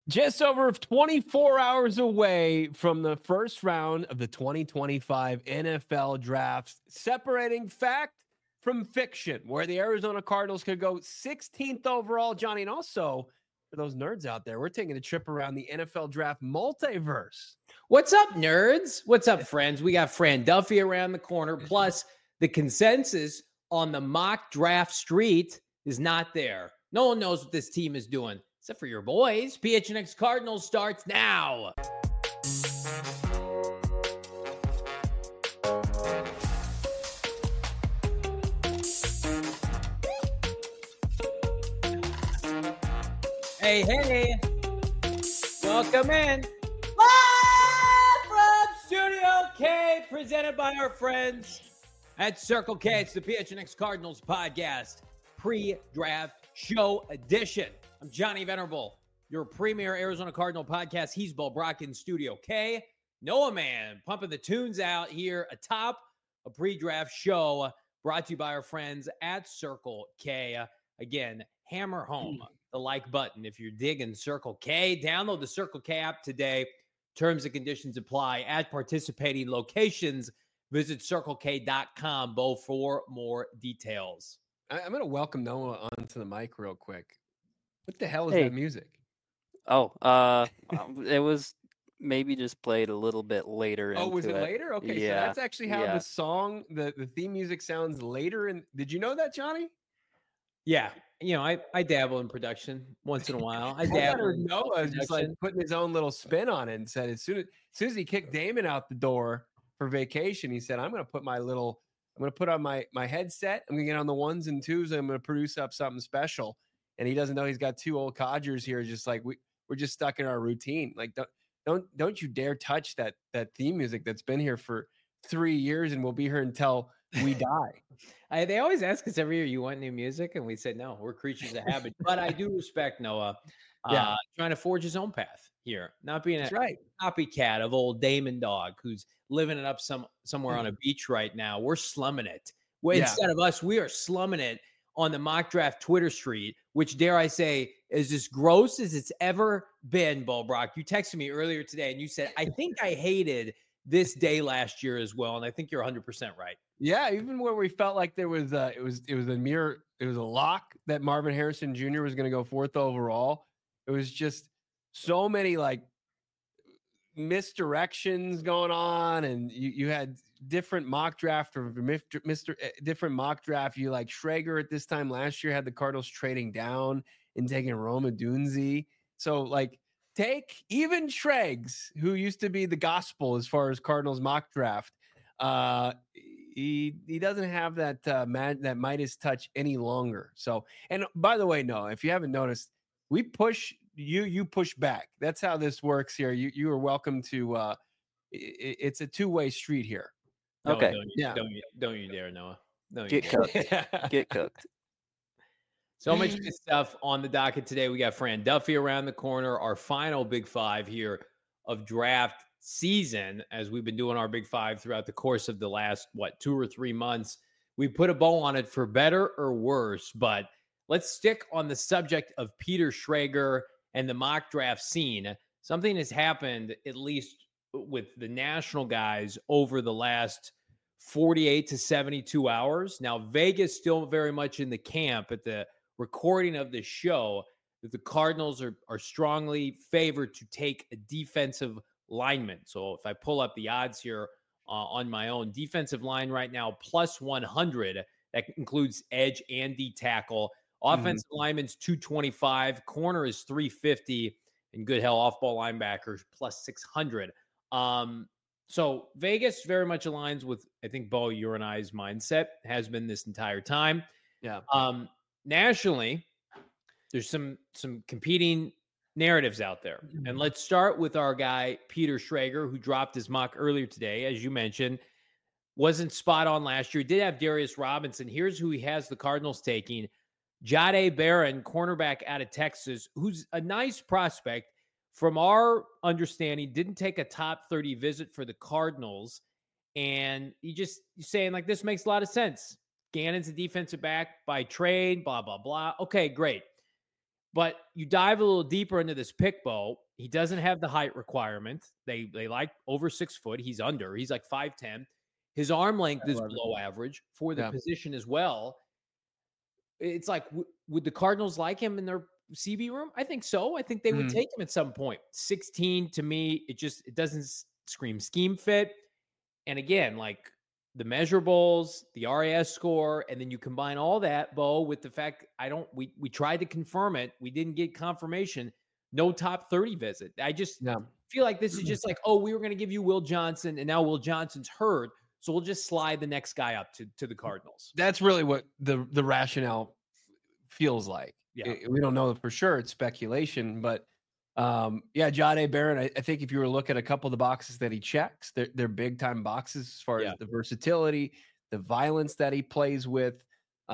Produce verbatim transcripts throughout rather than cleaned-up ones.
Just over twenty-four hours away from the first round of the twenty twenty-five N F L draft, separating fact from fiction, where the Arizona Cardinals could go sixteenth overall, Johnny. And also, for those nerds out there, we're taking a trip around the N F L draft multiverse. What's up, nerds? What's up, friends? We got Fran Duffy around the corner. Plus, the consensus on the mock draft street is not there. No one knows what this team is doing, except for your boys. P H N X Cardinals starts now. Hey, hey. Welcome in. Live from Studio K, presented by our friends at Circle K. It's the P H N X Cardinals podcast, pre-draft show edition. I'm Johnny Venerable, your premier Arizona Cardinal podcast. He's Bo Brock in Studio K. Noah Man pumping the tunes out here atop a pre-draft show brought to you by our friends at Circle K. Again, hammer home the like button if you're digging Circle K. Download the Circle K app today. Terms and conditions apply at participating locations. Visit circle k dot com, Bo, for more details. I, I'm going to welcome Noah onto the mic real quick. What the hell is Hey. that music? Oh, uh, it was maybe just played a little bit later. Oh, was it, into later? Okay, Yeah. so that's actually how Yeah. the song, the, the theme music sounds later. And did you know that, Johnny? Yeah, you know, I, I dabble in production once in a while. I I dabble better in Noah is just like production. putting his own little spin on it and said as soon as, as soon as he kicked Damon out the door for vacation, he said, I'm going to put my little, I'm going to put on my, my headset. I'm going to get on the ones and twos. And I'm going to produce up something special. And he doesn't know he's got two old codgers here. Just like we, we're just stuck in our routine. Like, don't, don't, don't you dare touch that, that theme music that's been here for three years and we'll be here until we die. I, they always ask us every year, you want new music? And we said, no, we're creatures of habit. But I do respect Noah uh, Yeah. trying to forge his own path here, not being That's a right. copycat of old Damon Dog who's living it up some somewhere Mm. on a beach right now. We're slumming it. Well, Yeah. Instead of us, we are slumming it on the mock draft Twitter street, which, dare I say, is as gross as it's ever been, Bo Brock. You texted me earlier today and you said, I think I hated this day last year as well. And I think you're one hundred percent right. Yeah, even where we felt like there was uh it was it was a mere it was a lock that Marvin Harrison Junior was going to go fourth overall. It was just so many like misdirections going on, and you you had different mock draft or Mister Mister uh, different mock draft. You like Schrager at this time last year had the Cardinals trading down and taking Roma Dunzi. So like take even Schrags, who used to be the gospel as far as Cardinals mock draft. Uh, he he doesn't have that uh, mad, that Midas touch any longer. So, and by the way, no, if you haven't noticed, we push you, you push back. That's how this works here. You you are welcome to. Uh, it, it's a two way street here. No, Okay. Don't you, Yeah. don't you, don't you dare, Noah. Don't you Get dare. cooked. Get cooked. So much good stuff on the docket today. We got Fran Duffy around the corner, our final Big Five here of draft season, as we've been doing our Big Five throughout the course of the last, what, two or three months. We put a bow on it for better or worse, but let's stick on the subject of Peter Schrager and the mock draft scene. Something has happened, at least with the national guys, over the last forty-eight to seventy-two hours. Now, Vegas still very much in the camp at the recording of this show that the Cardinals are, are strongly favored to take a defensive lineman. So if I pull up the odds here uh, on my own, defensive line right now, plus one hundred. That includes edge and D tackle. Offensive mm-hmm. lineman's two twenty-five. Corner is three fifty. And good hell, off-ball linebackers, plus six hundred. Um, so Vegas very much aligns with, I think, Bo, your and I's mindset, has been this entire time. Yeah. Um, nationally, there's some some competing narratives out there. And let's start with our guy, Peter Schrager, who dropped his mock earlier today, as you mentioned. Wasn't spot on last year. Did have Darius Robinson. Here's who he has the Cardinals taking. Jahdae Barron, cornerback out of Texas, who's a nice prospect. From our understanding, didn't take a top thirty visit for the Cardinals. And you just you're saying, like, this makes a lot of sense. Gannon's a defensive back by trade, blah, blah, blah. Okay, great. But you dive a little deeper into this pick, Bo. He doesn't have the height requirement. They they like over six foot. He's under. He's like five ten. His arm length I is love it. below average for the Yeah. position as well. It's like, w- would the Cardinals like him in their C B room? I think so. I think they would Mhm. take him at some point. sixteen to me, it just it doesn't s- scream scheme fit. And again, like the measurables, the R A S score, and then you combine all that, Bo, with the fact I don't we we tried to confirm it, we didn't get confirmation. No top thirty visit. I just Yeah. feel like this is just like, oh, we were going to give you Will Johnson, and now Will Johnson's hurt, so we'll just slide the next guy up to to the Cardinals. That's really what the the rationale feels like. Yeah. I- we don't know for sure. It's speculation, but um, yeah, Jahdae Barron. I, I think if you were to look at a couple of the boxes that he checks, they're, they're big time boxes as far Yeah. as the versatility, the violence that he plays with,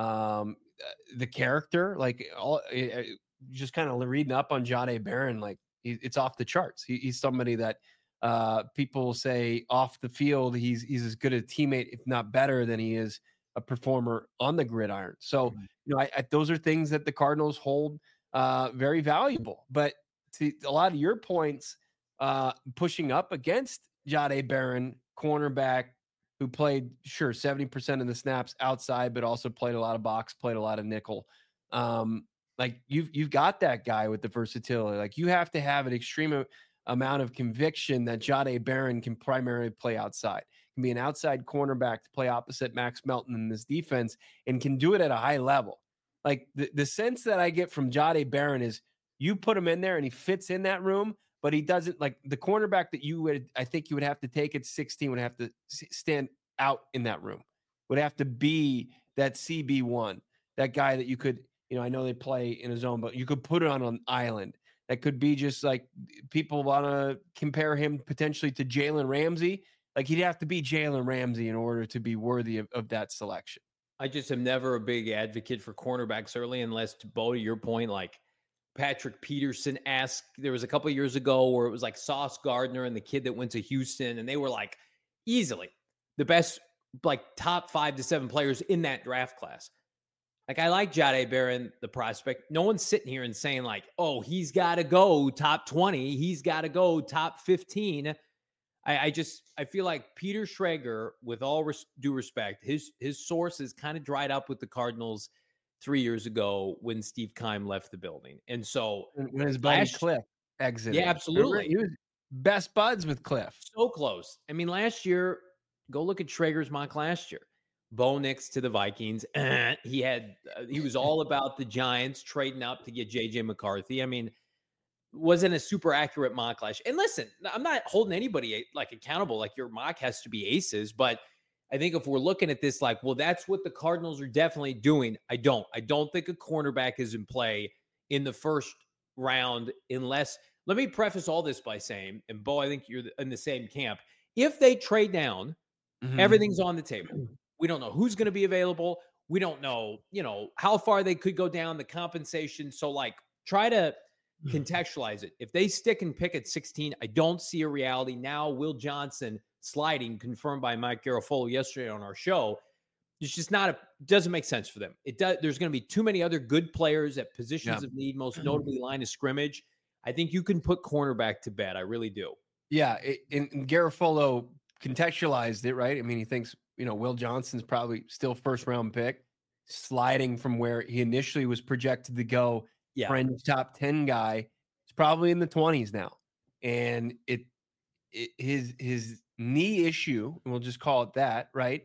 um, uh, the character. Like all, uh, uh, just kind of reading up on Jahdae Barron, like he, it's off the charts. He, he's somebody that uh, people say off the field, he's he's as good a teammate, if not better, than he is a performer on the gridiron. So, Mhm. you know, I, I, those are things that the Cardinals hold uh, very valuable. But to a lot of your points, uh, pushing up against Jahdae Barron, cornerback, who played, sure, seventy percent of the snaps outside, but also played a lot of box, played a lot of nickel. Um, like you've you've got that guy with the versatility. Like you have to have an extreme a- amount of conviction that Jahdae Barron can primarily play outside, can be an outside cornerback to play opposite Max Melton in this defense, and can do it at a high level. Like the, the sense that I get from Jahdae Barron is you put him in there and he fits in that room, but he doesn't, like the cornerback that you would, I think you would have to take at sixteen would have to s- stand out in that room, would have to be that C B one, that guy that you could, you know, I know they play in a zone, but you could put it on an island. That could be just like people want to compare him potentially to Jalen Ramsey. Like he'd have to be Jalen Ramsey in order to be worthy of, of that selection. I just am never a big advocate for cornerbacks early, unless, to Bo, to your point, like Patrick Peterson asked, there was a couple of years ago where it was like Sauce Gardner and the kid that went to Houston, and they were like easily the best, like top five to seven players in that draft class. Like I like Jahdae Barron, the prospect. No one's sitting here and saying like, oh, he's got to go top twenty. He's got to go top fifteen. I, I just, I feel like Peter Schrager, with all res- due respect, his his sources kind of dried up with the Cardinals three years ago when Steve Keim left the building. And so When his buddy last, Cliff exited. yeah, Remember? absolutely. He was best buds with Cliff. So close. I mean, last year, go look at Schrager's mock last year. Bo Nix to the Vikings. he had, uh, he was all about the Giants trading up to get J J McCarthy. I mean, wasn't a super accurate mock last year. And listen, I'm not holding anybody like accountable. Like your mock has to be aces, but I think if we're looking at this, like, well, that's what the Cardinals are definitely doing. I don't. I don't think a cornerback is in play in the first round unless. Let me preface all this by saying, and Bo, I think you're in the same camp. If they trade down, Mhm. everything's on the table. We don't know who's going to be available. We don't know, you know, how far they could go down, the compensation. So, like, try to contextualize it. If they stick and pick at sixteen, I don't see a reality. Now, Will Johnson sliding, confirmed by Mike Garafolo yesterday on our show. It's just not a, doesn't make sense for them. It does. There's going to be too many other good players at positions Yeah. of need, most notably line of scrimmage. I think you can put cornerback to bed. I really do. Yeah, it, and, and Garofolo contextualized it, right? I mean, he thinks, you know, Will Johnson's probably still first round pick, sliding from where he initially was projected to go. Yeah. Fringe top ten guy. It's probably in the twenties now. And it, it his his knee issue, and we'll just call it that, right?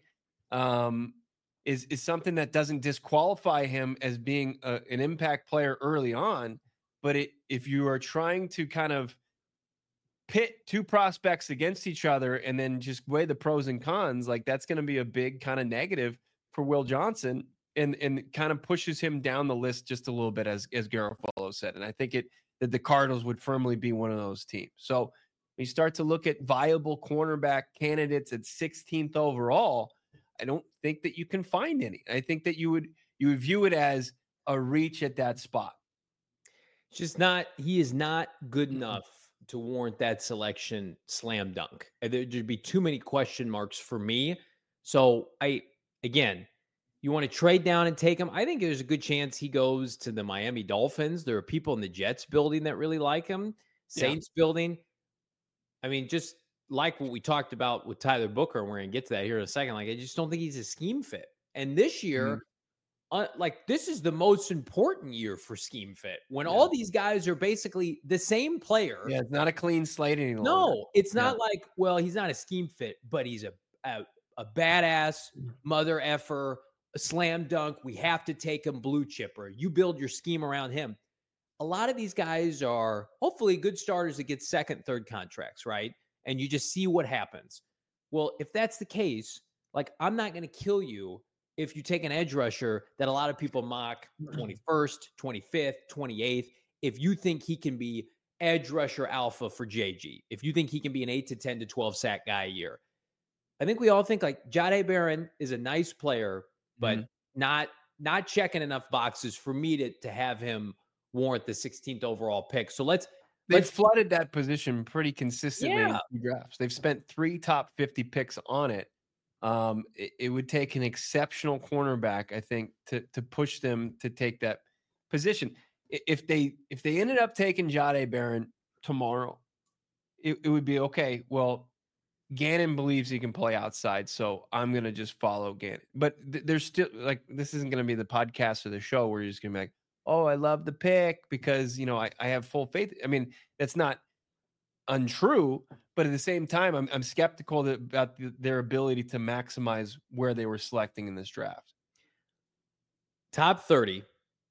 Um, is is something that doesn't disqualify him as being a, an impact player early on, but it, if you are trying to kind of pit two prospects against each other and then just weigh the pros and cons, like that's going to be a big kind of negative for Will Johnson, and and kind of pushes him down the list just a little bit, as as Garofalo said. And I think it that the Cardinals would firmly be one of those teams. So when you start to look at viable cornerback candidates at sixteenth overall, I don't think that you can find any. I think that you would you would view it as a reach at that spot. It's just not, he is not good enough to warrant that selection slam dunk. There'd be too many question marks for me. So I, again, You want to trade down and take him? I think there's a good chance he goes to the Miami Dolphins. There are people in the Jets building that really like him. Saints yeah. building. I mean, just like what we talked about with Tyler Booker, and we're going to get to that here in a second. Like, I just don't think he's a scheme fit. And this year, mm-hmm. uh, like, this is the most important year for scheme fit when yeah. all these guys are basically the same player. Yeah, it's not a clean slate any longer. No, it's not yeah. like, well, he's not a scheme fit, but he's a a, a badass mother effer, a slam dunk. We have to take him blue chipper. You build your scheme around him. A lot of these guys are hopefully good starters that get second, third contracts, right? And you just see what happens. Well, if that's the case, like, I'm not going to kill you if you take an edge rusher that a lot of people mock twenty-first, twenty-fifth, twenty-eighth. If you think he can be edge rusher alpha for J G, if you think he can be an eight to ten to twelve sack guy a year, I think we all think like Jahdae Barron is a nice player, but mm-hmm. not not checking enough boxes for me to to have him warrant the sixteenth overall pick. So let's they've let's, flooded that position pretty consistently yeah. in drafts. They've spent three top fifty picks on it. Um, it, it would take an exceptional cornerback, I think, to to push them to take that position. If they if they ended up taking Jahdae Barron tomorrow, it, it would be okay. Well, Gannon believes he can play outside, so I'm going to just follow Gannon. But th- there's still, like, this isn't going to be the podcast or the show where you're just going to be like, oh, I love the pick because, you know, I, I have full faith. I mean, that's not untrue, but at the same time, I'm, I'm skeptical that, about the, their ability to maximize where they were selecting in this draft. Top thirty.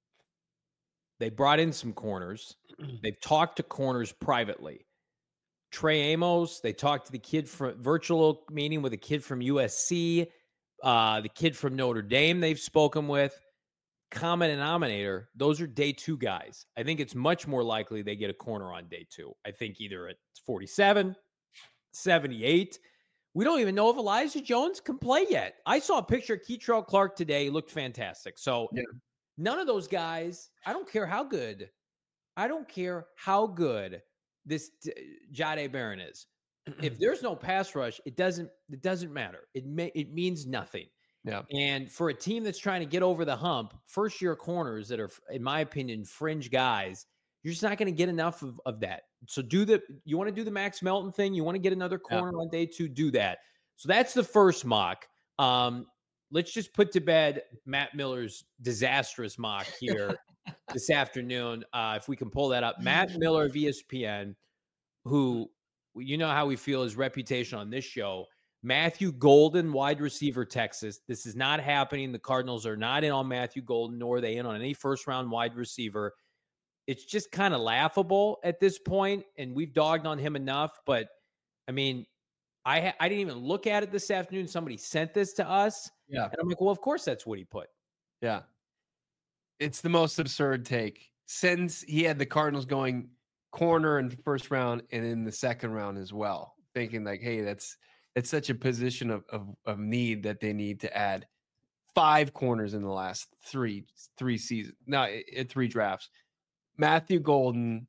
They brought in some corners. They've talked to corners privately. Trey Amos, they talked to the kid from virtual meeting with a kid from U S C, uh, the kid from Notre Dame they've spoken with. Common denominator, those are day two guys. I think it's much more likely they get a corner on day two. I think either at forty-seven, seventy-eight. We don't even know if Elijah Jones can play yet. I saw a picture of Keitrell Clark today. He looked fantastic. So yeah. None of those guys, I don't care how good, I don't care how good this Jahdae Barron is. If there's no pass rush, it doesn't it doesn't matter. It may, it means nothing. Yeah. And for a team that's trying to get over the hump, first year corners that are, in my opinion, fringe guys, you're just not going to get enough of, of that. So do the you want to do the Max Melton thing, you want to get another corner yeah. on day two, do that. So that's the first mock. Um, let's just put to bed Matt Miller's disastrous mock here this afternoon. Uh, if we can pull that up. Matt Miller of E S P N, who, you know how we feel his reputation on this show. Matthew Golden, wide receiver, Texas. This is not happening. The Cardinals are not in on Matthew Golden, nor are they in on any first-round wide receiver. It's just kind of laughable at this point, and we've dogged on him enough. But, I mean, I ha- I didn't even look at it this afternoon. Somebody sent this to us. Yeah. And I'm like, well, of course that's what he put. Yeah. It's the most absurd take. Since he had the Cardinals going corner in the first round and in the second round as well, thinking like, hey, that's it's such a position of, of of need that they need to add five corners in the last three three seasons. No, it, three drafts. Matthew Golden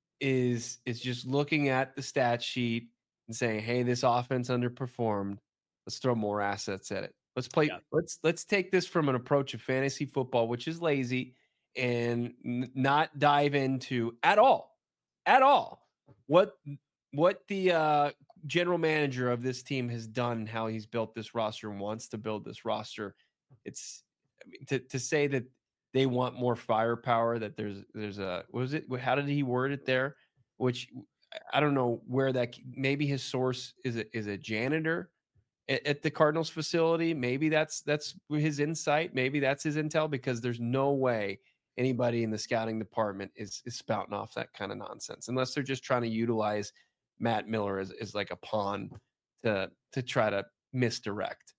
is is just looking at the stat sheet and saying, hey, this offense underperformed. Let's throw more assets at it. Let's play. Yeah. Let's let's take this from an approach of fantasy football, which is lazy, and n- not dive into at all, at all what what the uh, general manager of this team has done, how he's built this roster and wants to build this roster. It's I mean, to to say that they want more firepower. That there's there's a what was it? How did he word it there? Which I don't know where that. Maybe his source is a, is a janitor at the Cardinals facility. Maybe that's that's his insight. Maybe that's his intel, because there's no way anybody in the scouting department is, is spouting off that kind of nonsense, unless they're just trying to utilize Matt Miller as, as like a pawn to to try to misdirect.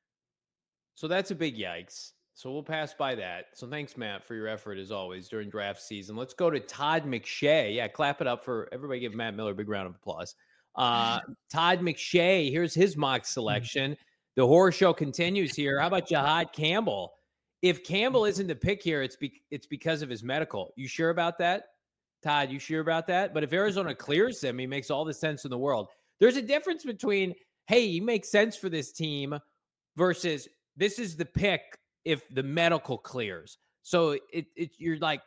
So that's a big yikes. So we'll pass by that. So thanks, Matt, for your effort as always during draft season. Let's go to Todd McShay. Yeah, clap it up for everybody. Give Matt Miller a big round of applause. Uh, Todd McShay, here's his mock selection. The horror show continues here. How about Jihad Campbell? If Campbell isn't the pick here, it's be- it's because of his medical. You sure about that? Todd, you sure about that? But if Arizona clears him, he makes all the sense in the world. There's a difference between, hey, he makes sense for this team versus this is the pick if the medical clears. So it, it you're like,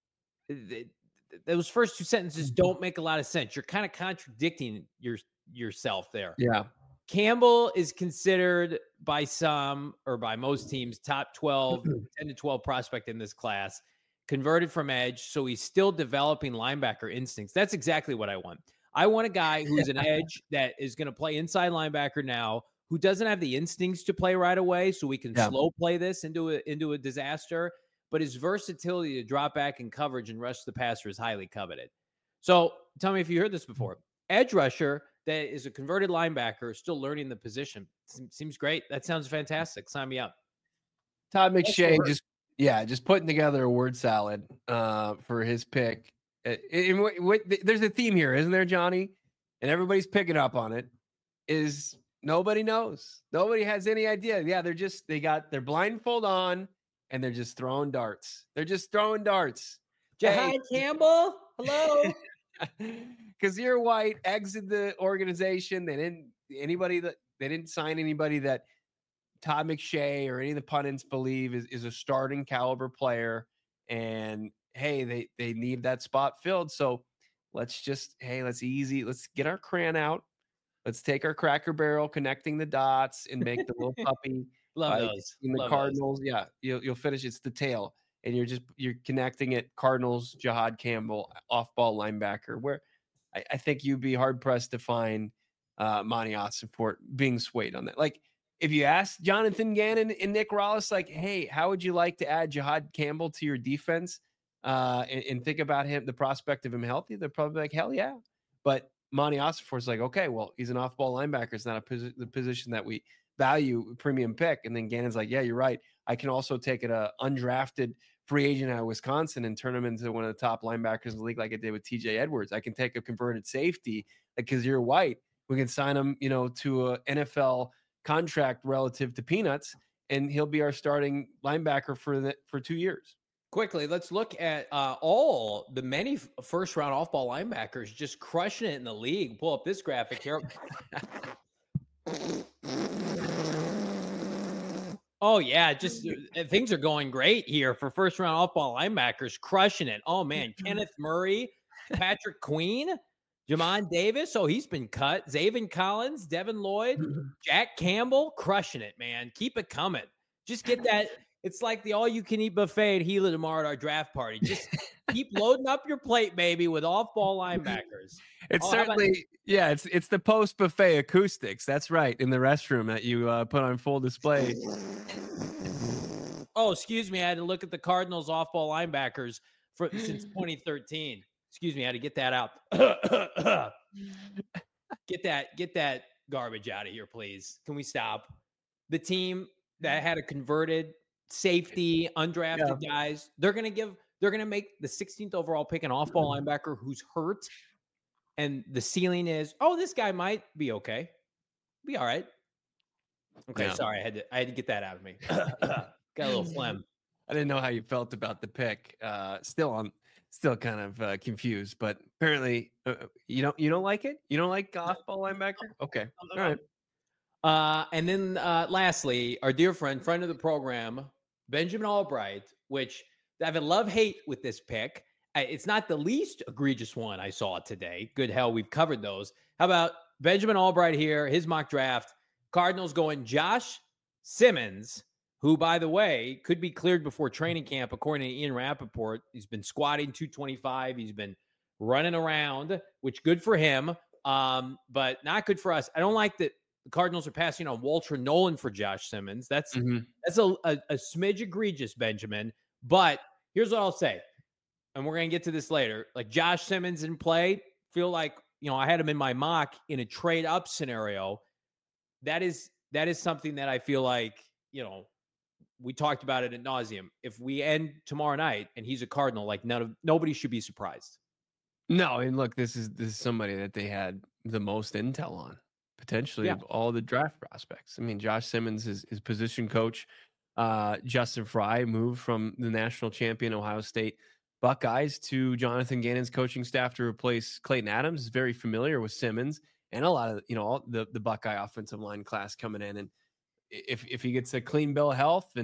it, those first two sentences don't make a lot of sense. You're kind of contradicting your yourself there. Yeah. Campbell is considered by some or by most teams top twelve, ten to twelve prospect in this class, converted from edge. So he's still developing linebacker instincts. That's exactly what I want. I want a guy who's an edge that is going to play inside linebacker now, who doesn't have the instincts to play right away. So we can yeah. slow play this into a, into a disaster. But his versatility to drop back in coverage and rush the passer is highly coveted. So tell me if you heard this before. Edge rusher that is a converted linebacker, still learning the position. Seems great. That sounds fantastic. Sign me up. Todd McShay just, yeah, just putting together a word salad uh, for his pick. Uh, and what, what, there's a theme here, isn't there, Johnny? And everybody's picking up on it. Is nobody knows. Nobody has any idea. Yeah, they're just, they got their blindfold on and they're just throwing darts. They're just throwing darts. Jahad hey. Campbell, hello. Because you're white, exit the organization. They didn't anybody that they didn't sign anybody that Todd McShay or any of the pundits believe is, is a starting caliber player. And hey, they they need that spot filled. So let's just hey, let's easy. Let's get our crayon out. Let's take our Cracker Barrel, connecting the dots, and make the little puppy. Love uh, those. In the Love Cardinals, those. yeah, you'll you'll finish. It's the tail. And you're just you're connecting it. Cardinals, Jahad Campbell, off-ball linebacker. Where I, I think you'd be hard pressed to find uh, Monty Ossenfort being swayed on that. Like if you ask Jonathan Gannon and Nick Rallis, like, hey, how would you like to add Jahad Campbell to your defense uh, and, and think about him, the prospect of him healthy? They're probably like, hell yeah. But Monty Ossenfort's like, okay, well, he's an off-ball linebacker. It's not a posi- the position that we value, premium pick. And then Gannon's like, yeah, you're right. I can also take it a undrafted free agent out of Wisconsin and turn him into one of the top linebackers in the league like I did with T J Edwards. I can take a converted safety because you're white. We can sign him, you know, to a N F L contract relative to peanuts, and he'll be our starting linebacker for the for two years. Quickly, let's look at uh, all the many first round off ball linebackers just crushing it in the league. Pull up this graphic here. Oh, yeah, just uh, things are going great here for first-round off-ball linebackers, crushing it. Oh, man, Kenneth Murray, Patrick Queen, Jamon Davis. Oh, he's been cut. Zaven Collins, Devin Lloyd, Jack Campbell, crushing it, man. Keep it coming. Just get that. It's like the all-you-can-eat buffet at Gila tomorrow at our draft party. Just keep loading up your plate, baby, with off-ball linebackers. It's oh, certainly, about- yeah, it's it's the post-buffet acoustics. That's right, in the restroom that you uh, put on full display. Oh, excuse me. I had to look at the Cardinals off-ball linebackers for since twenty thirteen. Excuse me. I had to get that out. get that, get that garbage out of here, please. Can we stop? The team that had a converted safety, undrafted yeah. guys, they're going to give, they're going to make the sixteenth overall pick an off-ball linebacker who's hurt. And the ceiling is, oh, this guy might be okay. Be all right. Okay, yeah. sorry. I had to I had to get that out of me. Got a little phlegm. I didn't know how you felt about the pick. Uh, still I'm still kind of uh, confused, but apparently uh, you don't you don't like it? You don't like off-ball linebacker? Okay. All right. Uh, and then uh, lastly, our dear friend, friend of the program, Benjamin Albright, which I have a love-hate with this pick. It's not the least egregious one I saw today. Good hell, we've covered those. How about Benjamin Albright here, his mock draft? Cardinals going Josh Simmons, who, by the way, could be cleared before training camp, according to Ian Rappaport. He's been squatting two twenty-five. He's been running around, which good for him, um, but not good for us. I don't like that the Cardinals are passing on Walter Nolan for Josh Simmons. That's, mm-hmm. that's a, a, a smidge egregious, Benjamin. But here's what I'll say. And we're going to get to this later. Like Josh Simmons in play, feel like, you know, I had him in my mock in a trade up scenario. That is, that is something that I feel like, you know, we talked about it ad nauseum. If we end tomorrow night and he's a Cardinal, like none of, nobody should be surprised. No. And look, this is, this is somebody that they had the most intel on potentially yeah. of all the draft prospects. I mean, Josh Simmons is his position coach. Uh, Justin Fry moved from the national champion Ohio State Buckeyes to Jonathan Gannon's coaching staff to replace Clayton Adams. Is very familiar with Simmons and a lot of, you know, all the, the Buckeye offensive line class coming in. And if, if he gets a clean bill of health and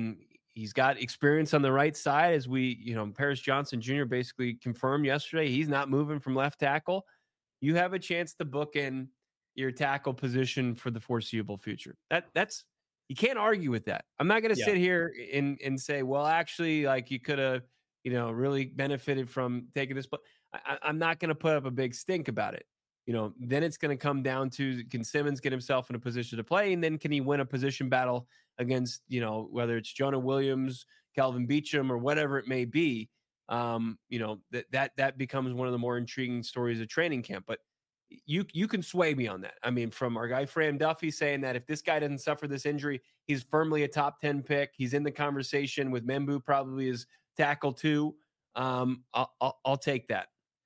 he's got experience on the right side, as we, you know, Paris Johnson Junior basically confirmed yesterday. He's not moving from left tackle. You have a chance to book in your tackle position for the foreseeable future. That that's you can't argue with that. I'm not going to Yeah. sit here and and say, well, actually, like you could have, you know, really benefited from taking this, but I, I'm not going to put up a big stink about it. You know, then it's going to come down to, can Simmons get himself in a position to play, and then can he win a position battle against, you know, whether it's Jonah Williams, Calvin Beachum, or whatever it may be. Um, you know, that that that becomes one of the more intriguing stories of training camp. But you you can sway me on that. I mean, from our guy Fran Duffy saying that if this guy doesn't suffer this injury, he's firmly a top ten pick. He's in the conversation with Membu, probably is tackle two. Um, I'll, I'll I'll take that.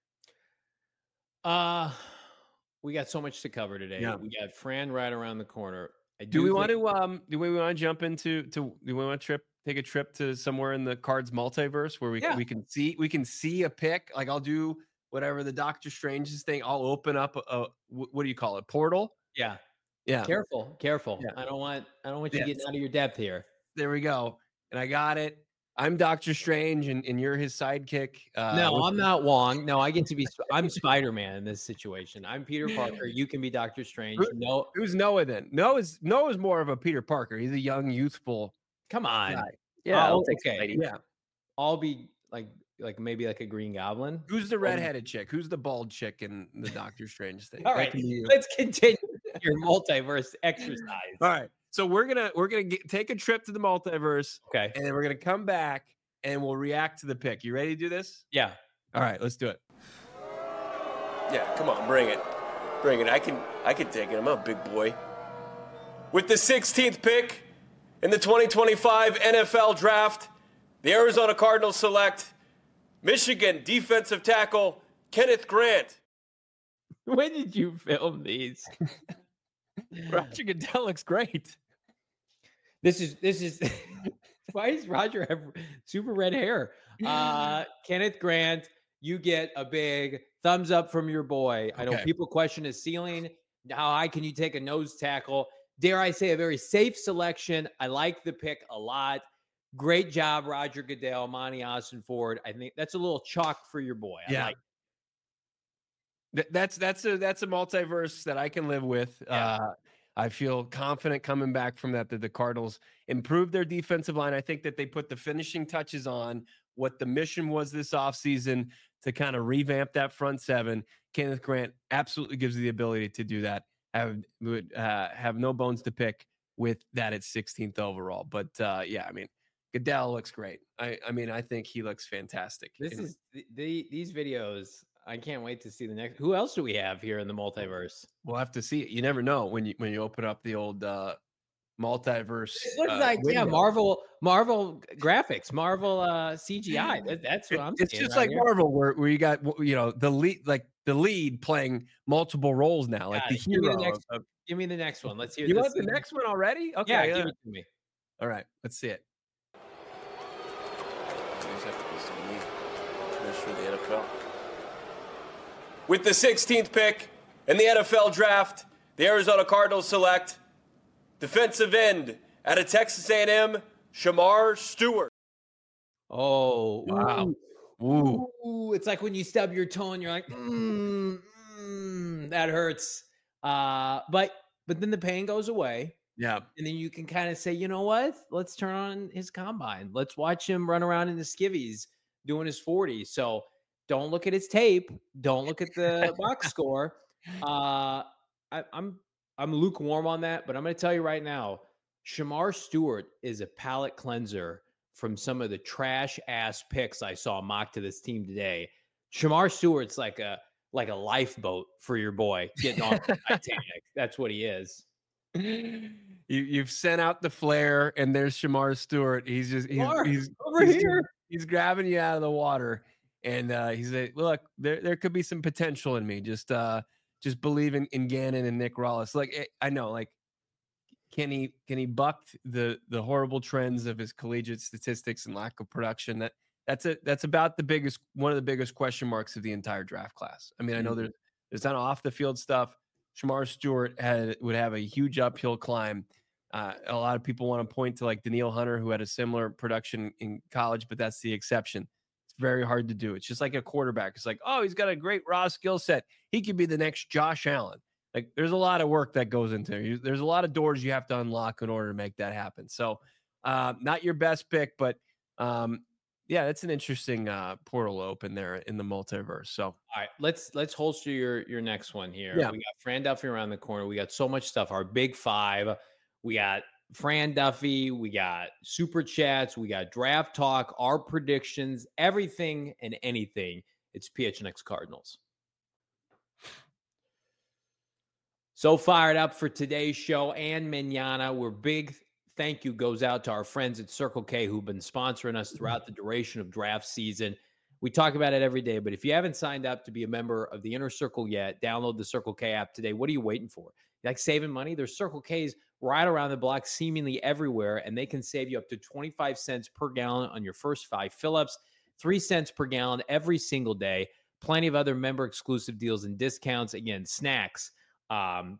Uh we got so much to cover today. Yeah. We got Fran right around the corner. I Do we think- want to um do we want to jump into to do we want to trip take a trip to somewhere in the Cards multiverse where we Yeah. we can see we can see a pick? Like I'll do whatever the Doctor Strange's thing. I'll open up a, a what do you call it? Portal? Yeah. Yeah. Careful, careful. Yeah. I don't want I don't want you Yes. getting out of your depth here. There we go. And I got it. I'm Doctor Strange and, and you're his sidekick. Uh, no, with- I'm not Wong. No, I get to be I'm Spider-Man in this situation. I'm Peter Parker. You can be Doctor Strange. Who- No, Who's Noah then? Noah's Noah's more of a Peter Parker. He's a young, youthful come on. guy. Yeah, Oh, I'll take okay. Spidey. Yeah. I'll be like like maybe like a Green Goblin. Who's the redheaded chick? Who's the bald chick in the Doctor Strange thing? All That right, can be you. let's continue your multiverse exercise. All right. So we're gonna we're gonna get, take a trip to the multiverse, Okay. and then we're gonna come back and we'll react to the pick. You ready to do this? Yeah. All right, let's do it. Yeah, come on, bring it. Bring it. I can I can take it. I'm a big boy. With the sixteenth pick in the twenty twenty-five N F L Draft, the Arizona Cardinals select Michigan defensive tackle Kenneth Grant. When did you film these? Roger Goodell looks great. This is this is why does Roger have super red hair? Uh Kenneth Grant, you get a big thumbs up from your boy. I know Okay. people question his ceiling. How high can you take a nose tackle? Dare I say a very safe selection. I like the pick a lot. Great job, Roger Goodell, Monty Austin Ford. I think that's a little chalk for your boy. I Yeah. like Th- That's that's a that's a multiverse that I can live with. Yeah. Uh, I feel confident coming back from that that the Cardinals improved their defensive line. I think that they put the finishing touches on what the mission was this offseason to kind of revamp that front seven. Kenneth Grant absolutely gives you the ability to do that. Have would uh, have no bones to pick with that at sixteenth overall. But uh, yeah, I mean, Goodell looks great. I I mean, I think he looks fantastic. This And- is the, the these videos. I can't wait to see the next. Who else do we have here in the multiverse? We'll have to see it. You never know when you when you open up the old uh multiverse. It looks uh, like yeah, window. Marvel, Marvel graphics, Marvel uh, C G I. That, that's what It- I'm. it's seeing just right like here. Marvel, where, where you got w- you know the lead, like the lead playing multiple roles now, like Got the it. Give me hero. the next- of- Give me the next one. Let's hear. you this want the thing. next one already? Okay, Yeah, uh, give it to me. all right, let's see it. These have to be some neat commissioner of the N F L. With the sixteenth pick in the N F L Draft, the Arizona Cardinals select defensive end out of Texas A and M, Shamar Stewart. Oh Wow. Ooh. Ooh, Ooh, it's like when you stub your toe and you're like, mm, mm, that hurts. Uh, but but then the pain goes away. yeah, And then you can kind of say, you know what? Let's turn on his combine. Let's watch him run around in the skivvies doing his forty. So don't look at his tape. Don't look at the box score. Uh, I, I'm I'm lukewarm on that, but I'm going to tell you right now, Shamar Stewart is a palate cleanser from some of the trash ass picks I saw mocked to this team today. Shamar Stewart's like a like a lifeboat for your boy getting on the Titanic. That's what he is. you you've sent out the flare, and there's Shamar Stewart. He's just he's Shamar, he's over he's, here. He's grabbing you out of the water, and uh, he's like, "Look, there there could be some potential in me. Just uh, just believe in, in Gannon and Nick Rollis. Like eh, I know, like can he can he buck the the horrible trends of his collegiate statistics and lack of production? That that's a that's about the biggest one of the biggest question marks of the entire draft class. I mean, I know Mhm. there's there's not off the field stuff. Shamar Stewart had would have a huge uphill climb Uh, a lot of people want to point to like Danielle Hunter, who had a similar production in college, but that's the exception. It's very hard to do. It's just like a quarterback. It's like, oh, he's got a great raw skill set. He could be the next Josh Allen. Like, there's a lot of work that goes into it. There's a lot of doors you have to unlock in order to make that happen. So, uh, not your best pick, but um, yeah, that's an interesting uh, portal open there in the multiverse. So, all right, let's let's holster your your next one here. Yeah. We got Fran Duffy around the corner. We got so much stuff. Our big five. We got Fran Duffy. We got super chats. We got draft talk. Our predictions. Everything and anything. It's P H N X Cardinals. So fired up for today's show and Manana. We're big. Thank you goes out to our friends at Circle K who've been sponsoring us throughout the duration of draft season. We talk about it every day, but if you haven't signed up to be a member of the Inner Circle yet, download the Circle K app today. What are you waiting for? You like saving money? There's Circle K's right around the block, seemingly everywhere, and they can save you up to twenty-five cents per gallon on your first five fill-ups, three cents per gallon every single day. Plenty of other member-exclusive deals and discounts. Again, snacks, um,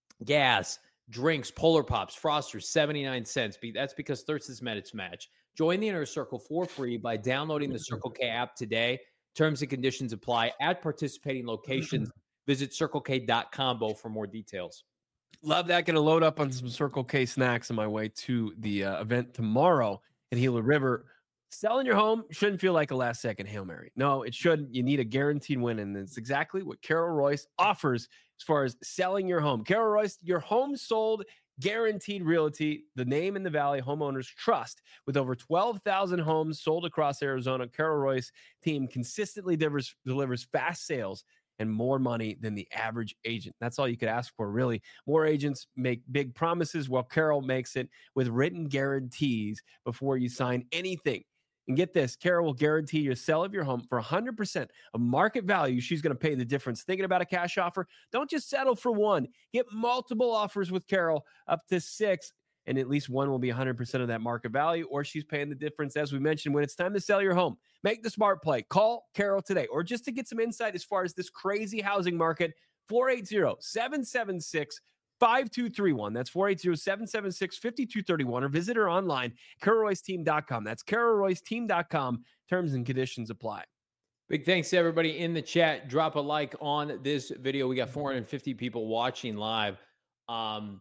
gas, drinks, Polar Pops, Frosters, seventy-nine cents. That's because thirst has met its match. Join the Inner Circle for free by downloading the Circle K app today. Terms and conditions apply at participating locations. Visit circle k dot combo for more details. Love that. Going to load up on some Circle K snacks on my way to the uh, event tomorrow in Gila River. Selling your home shouldn't feel like a last-second Hail Mary. No, it shouldn't. You need a guaranteed win, and it's exactly what Carol Royce offers as far as selling your home. Carol Royce, your home sold, guaranteed realty, the name in the Valley homeowners trust. With over twelve thousand homes sold across Arizona, Carol Royce team consistently delivers, delivers fast sales and more money than the average agent. That's all you could ask for, really. More agents make big promises, while Carol makes it with written guarantees before you sign anything. And get this, Carol will guarantee your sale of your home for one hundred percent of market value. She's going to pay the difference. Thinking about a cash offer? Don't just settle for one. Get multiple offers with Carol, up to six, and at least one will be one hundred percent of that market value, or she's paying the difference, as we mentioned, when it's time to sell your home. Make the smart play. Call Carol today, or just to get some insight as far as this crazy housing market, four eight zero, seven seven six, five two three one. That's four eight zero, seven seven six, five two three one, or visit her online, carol royce team dot com. That's carol royce team dot com. Terms and conditions apply. Big thanks to everybody in the chat. Drop a like on this video. We got four hundred fifty people watching live. Um,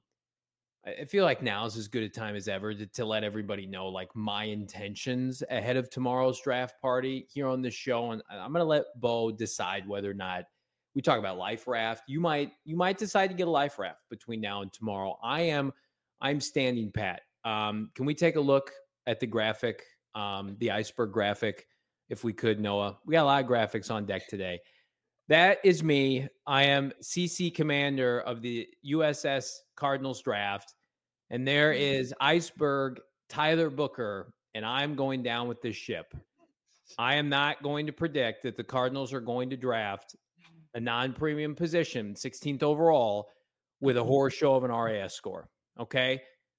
I feel like now is as good a time as ever to, to let everybody know like my intentions ahead of tomorrow's draft party here on this show. And I'm going to let Bo decide whether or not we talk about Life Raft. You might, you might decide to get a Life Raft between now and tomorrow. I am, I'm standing pat. Um, can we take a look at the graphic, um, the iceberg graphic, if we could, Noah? We got a lot of graphics on deck today. That is me. I am C C commander of the U S S Cardinals draft. And there is iceberg Tyler Booker, and I'm going down with this ship. I am not going to predict that the Cardinals are going to draft a non-premium position, sixteenth overall, with a horror show of an R A S score. Okay?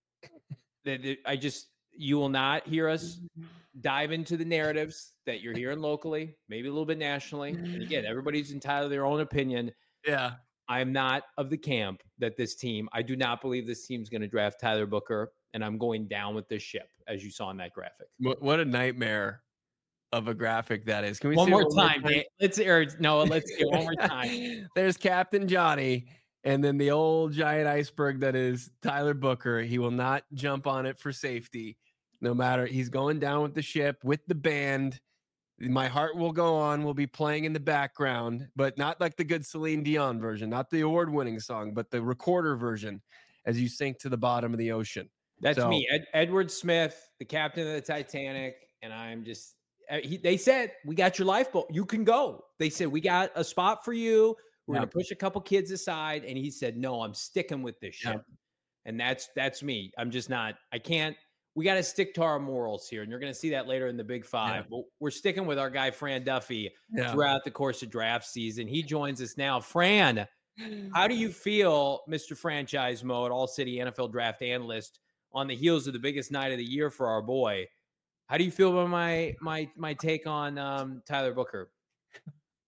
I just, you will not hear us dive into the narratives that you're hearing locally, maybe a little bit nationally. And again, everybody's entitled to their own opinion. Yeah. I am not of the camp that this team, I do not believe this team's going to draft Tyler Booker, and I'm going down with this ship, as you saw in that graphic. What, what a nightmare of a graphic that is. Can we one see more it one time? more time? Let's hear Noah. Let's get one more time. There's Captain Johnny, and then the old giant iceberg that is Tyler Booker. He will not jump on it for safety, no matter. He's going down with the ship with the band. My Heart Will Go On will be playing in the background, but not like the good Celine Dion version, not the award-winning song, but the recorder version as you sink to the bottom of the ocean. That's So- me, Ed, Edward Smith, the captain of the Titanic, and I'm just. Uh, he, they said, we got your lifeboat. You can go. They said, we got a spot for you. We're Yeah. going to push a couple kids aside. And he said, no, I'm sticking with this ship. Yeah. And that's that's me. I'm just not. I can't. We got to stick to our morals here. And you're going to see that later in the Big Five. Yeah. But we're sticking with our guy, Fran Duffy, Yeah. throughout the course of draft season. He joins us now. Fran, how do you feel, Mister Franchise Mode, All-City N F L Draft Analyst, on the heels of the biggest night of the year for our boy? How do you feel about my my my take on um, Tyler Booker?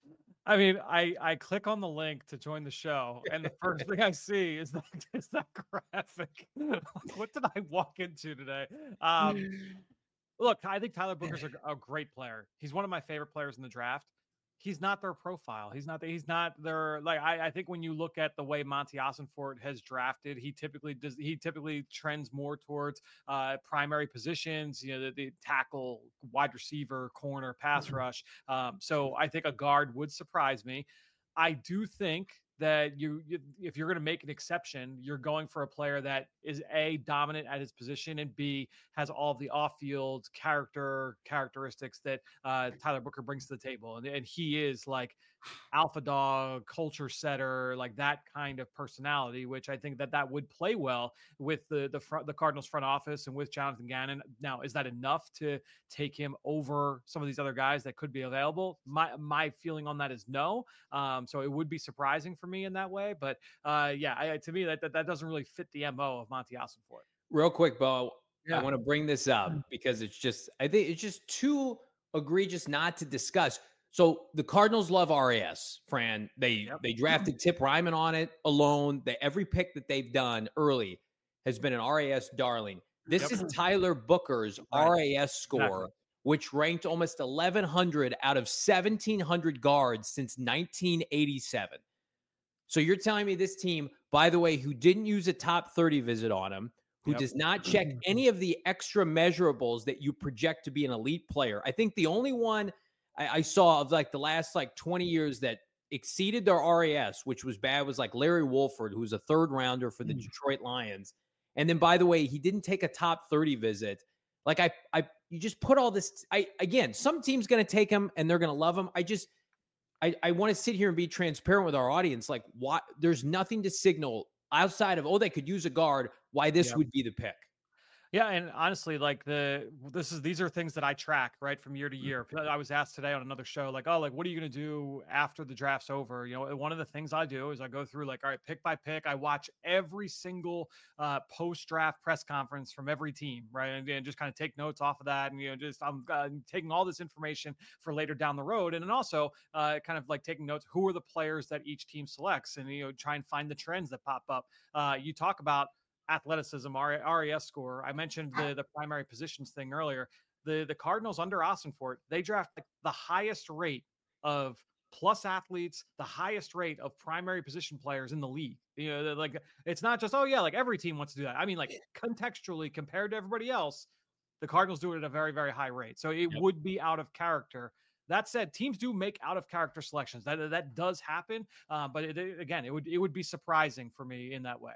I mean, I I click on the link to join the show, and the first thing I see is that is that graphic. What did I walk into today? Um, look, I think Tyler Booker's a, a great player. He's one of my favorite players in the draft. He's not their profile. He's not. He's not their like. I, I think when you look at the way Monty Ossenfort has drafted, he typically does. He typically trends more towards uh, primary positions. You know, the, the tackle, wide receiver, corner, pass rush. Um, so I think a guard would surprise me. I do think that you, you if you're going to make an exception, you're going for a player that is A, dominant at his position, and B, has all the off-field character characteristics that uh, Tyler Booker brings to the table. And, and he is like alpha dog, culture setter, like that kind of personality, which I think that that would play well with the the front, the Cardinals front office and with Jonathan Gannon. Now, is that enough to take him over some of these other guys that could be available? My my feeling on that is no. Um, so it would be surprising for me in that way. But uh, yeah, I, to me, that, that that doesn't really fit the M O of Monty Ossenfort. Real quick, Bo, Yeah. I want to bring this up because it's just, I think it's just too egregious not to discuss. So the Cardinals love R A S, Fran. They yep. they drafted Tip Ryman on it alone. They, every pick that they've done early has been an R A S darling. This yep. is Tyler Booker's right. R A S score, exactly. which ranked almost eleven hundred out of seventeen hundred guards since nineteen eighty-seven. So you're telling me this team, by the way, who didn't use a top thirty visit on him, who yep. does not check any of the extra measurables that you project to be an elite player. I think the only one I, I saw of like the last like twenty years that exceeded their R A S, which was bad, was like Larry Wolford, who was a third rounder for the mm. Detroit Lions. And then, by the way, he didn't take a top thirty visit. Like I, I, you just put all this. I again, some team's going to take him and they're going to love him. I just, I, I want to sit here and be transparent with our audience. Like, what? There's nothing to signal outside of, oh, they could use a guard, why this yep. would be the pick. Yeah, and honestly, like the this is these are things that I track right from year to year. I was asked today on another show, like, oh, like what are you going to do after the draft's over? You know, one of the things I do is I go through like, all right, pick by pick. I watch every single uh, post-draft press conference from every team, right, and, and just kind of take notes off of that, and you know, just I'm uh, taking all this information for later down the road, and then also uh, kind of like taking notes. Who are the players that each team selects, and you know, try and find the trends that pop up. Uh, you talk about athleticism, R A S score. I mentioned the, the primary positions thing earlier. The the Cardinals under Ossenfort, they draft like the highest rate of plus athletes, the highest rate of primary position players in the league. You know, like it's not just, oh yeah, like every team wants to do that. I mean, like contextually compared to everybody else, the Cardinals do it at a very, very high rate. So it yep. would be out of character. That said, teams do make out of character selections. That that does happen. Uh, but it, again, it would it would be surprising for me in that way.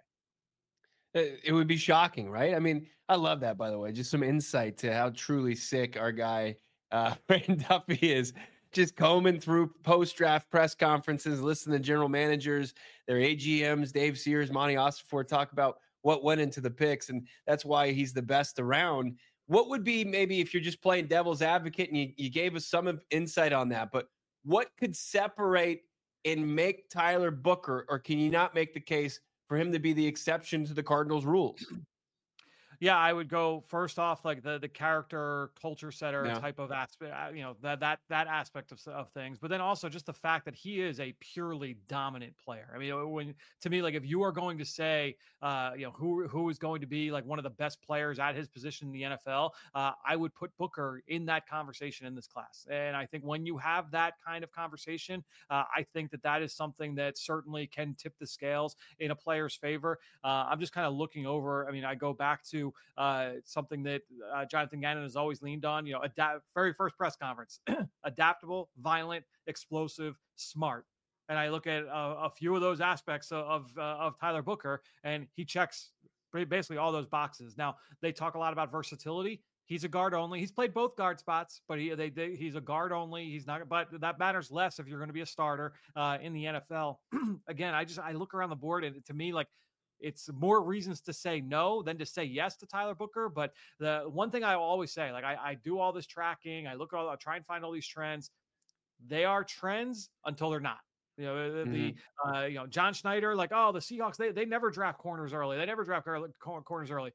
It would be shocking, right? I mean, I love that, by the way. Just some insight to how truly sick our guy, uh, Fran Duffy is. Just combing through post-draft press conferences, listening to general managers, their A G Ms, Dave Sears, Monty Ossenfort talk about what went into the picks, and that's why he's the best around. What would be maybe if you're just playing devil's advocate, and you, you gave us some insight on that, but what could separate and make Tyler Booker, or can you not make the case for him to be the exception to the Cardinals rules? Yeah, I would go first off, like the the character culture setter yeah. type of aspect, you know, that that that aspect of, of things. But then also just the fact that he is a purely dominant player. I mean, when to me, like if you are going to say, uh, you know, who who is going to be like one of the best players at his position in the N F L, uh, I would put Booker in that conversation in this class. And I think when you have that kind of conversation, uh, I think that that is something that certainly can tip the scales in a player's favor. Uh, I'm just kind of looking over. I mean, I go back to uh, something that uh, Jonathan Gannon has always leaned on, you know, adapt, very first press conference, adaptable, violent, explosive, smart. And I look at uh, a few of those aspects of, of, uh, of Tyler Booker, and he checks basically all those boxes. Now, they talk a lot about versatility. He's a guard only. He's played both guard spots, but he they, they he's a guard only. He's not, but that matters less if you're going to be a starter uh, in the N F L. Again, I just I look around the board, and to me, like, it's more reasons to say no than to say yes to Tyler Booker. But the one thing I always say, like I, I do all this tracking, I look at all, I try and find all these trends. They are trends until they're not. You know, the, mm-hmm. the uh, you know, John Schneider, like, oh, the Seahawks, they they never draft corners early. They never draft corners early.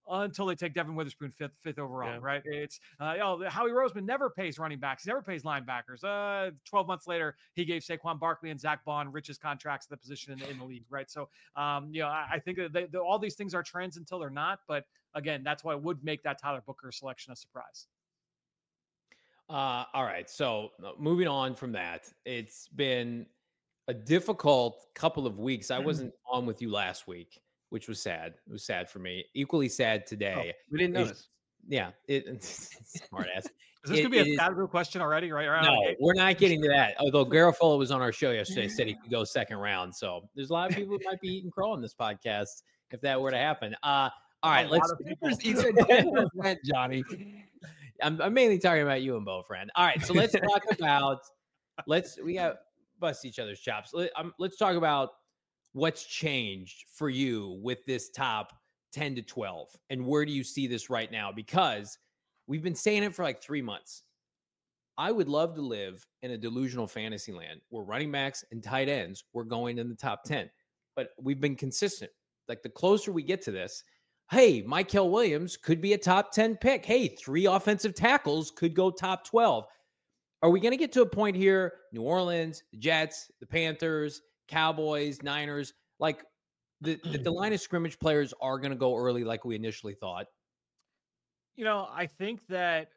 until they take Devin Witherspoon fifth, fifth overall, Yeah. right? It's uh, oh, Howie Roseman never pays running backs, he never pays linebackers. Uh, twelve months later, he gave Saquon Barkley and Zach Bond richest contracts at the position in, in the league, right? So, um, you know, I, I think that they, the, all these things are trends until they're not. But again, that's why it would make that Tyler Booker selection a surprise. Uh, all right. So uh, moving on from that, it's been a difficult couple of weeks. I wasn't on with you last week, which was sad. It was sad for me. Equally sad today. Oh, we didn't It's- notice. Yeah. It, smart ass. Is this It- going to be it a is- Scott question already, right? right No, okay. we're not getting to that. Although Garofalo was on our show yesterday, said he could go second round. So there's a lot of people who might be eating crow on this podcast if that were to happen. Uh, all right, A let's. lot of people. He said ten percent, Johnny. I'm, I'm mainly talking about you and Bo, friend. All right, so let's talk about. Let's we got bust each other's chops. Let, um, let's talk about what's changed for you with this top ten to twelve, and where do you see this right now? Because we've been saying it for like three months. I would love to live in a delusional fantasy land where running backs and tight ends were going in the top ten, but we've been consistent. Like the closer we get to this, hey, Mykel Williams could be a top ten pick. Hey, three offensive tackles could go top twelve. Are we going to get to a point here? New Orleans, the Jets, the Panthers, Cowboys, Niners, like the, the, the line of scrimmage players are going to go early like we initially thought. You know, I think that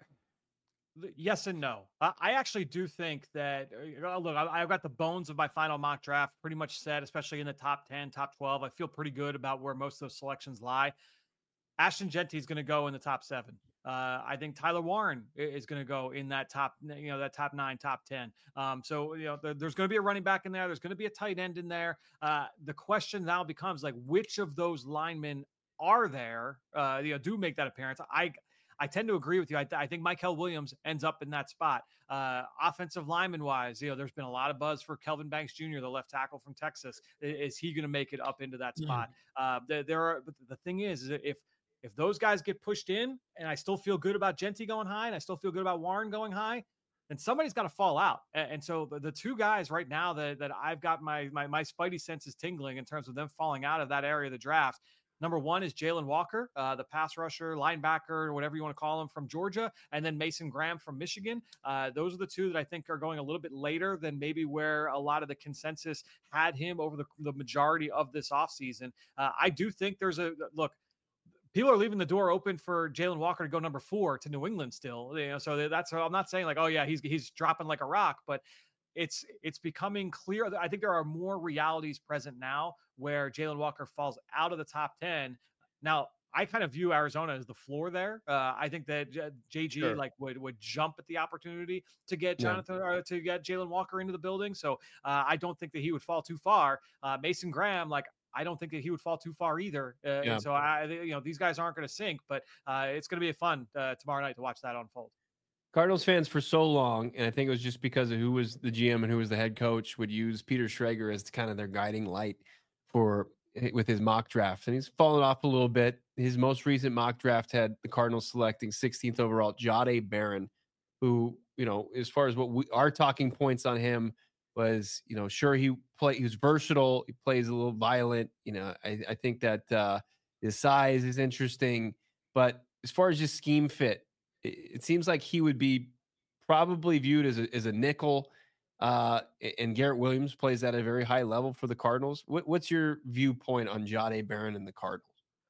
yes and no. I, I actually do think that, uh, look, I, I've got the bones of my final mock draft pretty much set, especially in the top ten, top twelve. I feel pretty good about where most of those selections lie. Ashton Genty is going to go in the top seven. Uh, I think Tyler Warren is going to go in that top, you know, that top nine, top ten. Um, so, you know, there, there's going to be a running back in there. There's going to be a tight end in there. Uh, the question now becomes like, which of those linemen are there, uh, you know, do make that appearance? I, I tend to agree with you. I, I think Mykel Williams ends up in that spot. Uh, offensive lineman wise, you know, there's been a lot of buzz for Kelvin Banks Junior, the left tackle from Texas. Is, is he going to make it up into that spot? Mm. Uh, there, there are, but the thing is, is if, if those guys get pushed in and I still feel good about Genty going high and I still feel good about Warren going high, then somebody's got to fall out. And, and so the, the two guys right now that, that I've got my, my, my spidey senses tingling in terms of them falling out of that area of the draft. Number one is Jalen Walker, uh, the pass rusher, linebacker, whatever you want to call him, from Georgia, and then Mason Graham from Michigan. Uh, those are the two that I think are going a little bit later than maybe where a lot of the consensus had him over the, the majority of this offseason. Uh, I do think there's a look. People are leaving the door open for Jalen Walker to go number four to New England still. You know, so that's, I'm not saying like, oh yeah, he's he's dropping like a rock, but it's it's becoming clear. I think there are more realities present now where Jalen Walker falls out of the top ten. Now, I kind of view Arizona as the floor there. Uh, I think that J G sure. like would would jump at the opportunity to get Jonathan yeah. or to get Jalen Walker into the building. So uh, I don't think that he would fall too far. Uh, Mason Graham, like. I don't think that he would fall too far either. Uh, yeah. And so I, you know, these guys aren't going to sink, but uh, it's going to be fun uh, tomorrow night to watch that unfold. Cardinals fans for so long, and I think it was just because of who was the G M and who was the head coach, would use Peter Schrager as kind of their guiding light for with his mock draft. And he's fallen off a little bit. His most recent mock draft had the Cardinals selecting sixteenth overall, Jahdae Barron, who, you know, as far as what we our talking points on him was, you know, sure, he play he was versatile, he plays a little violent, you know, I, I think that uh his size is interesting, but as far as just scheme fit, it, it seems like he would be probably viewed as a as a nickel, uh and Garrett Williams plays at a very high level for the Cardinals. What, what's your viewpoint on Jahdae Barron and the Cardinals?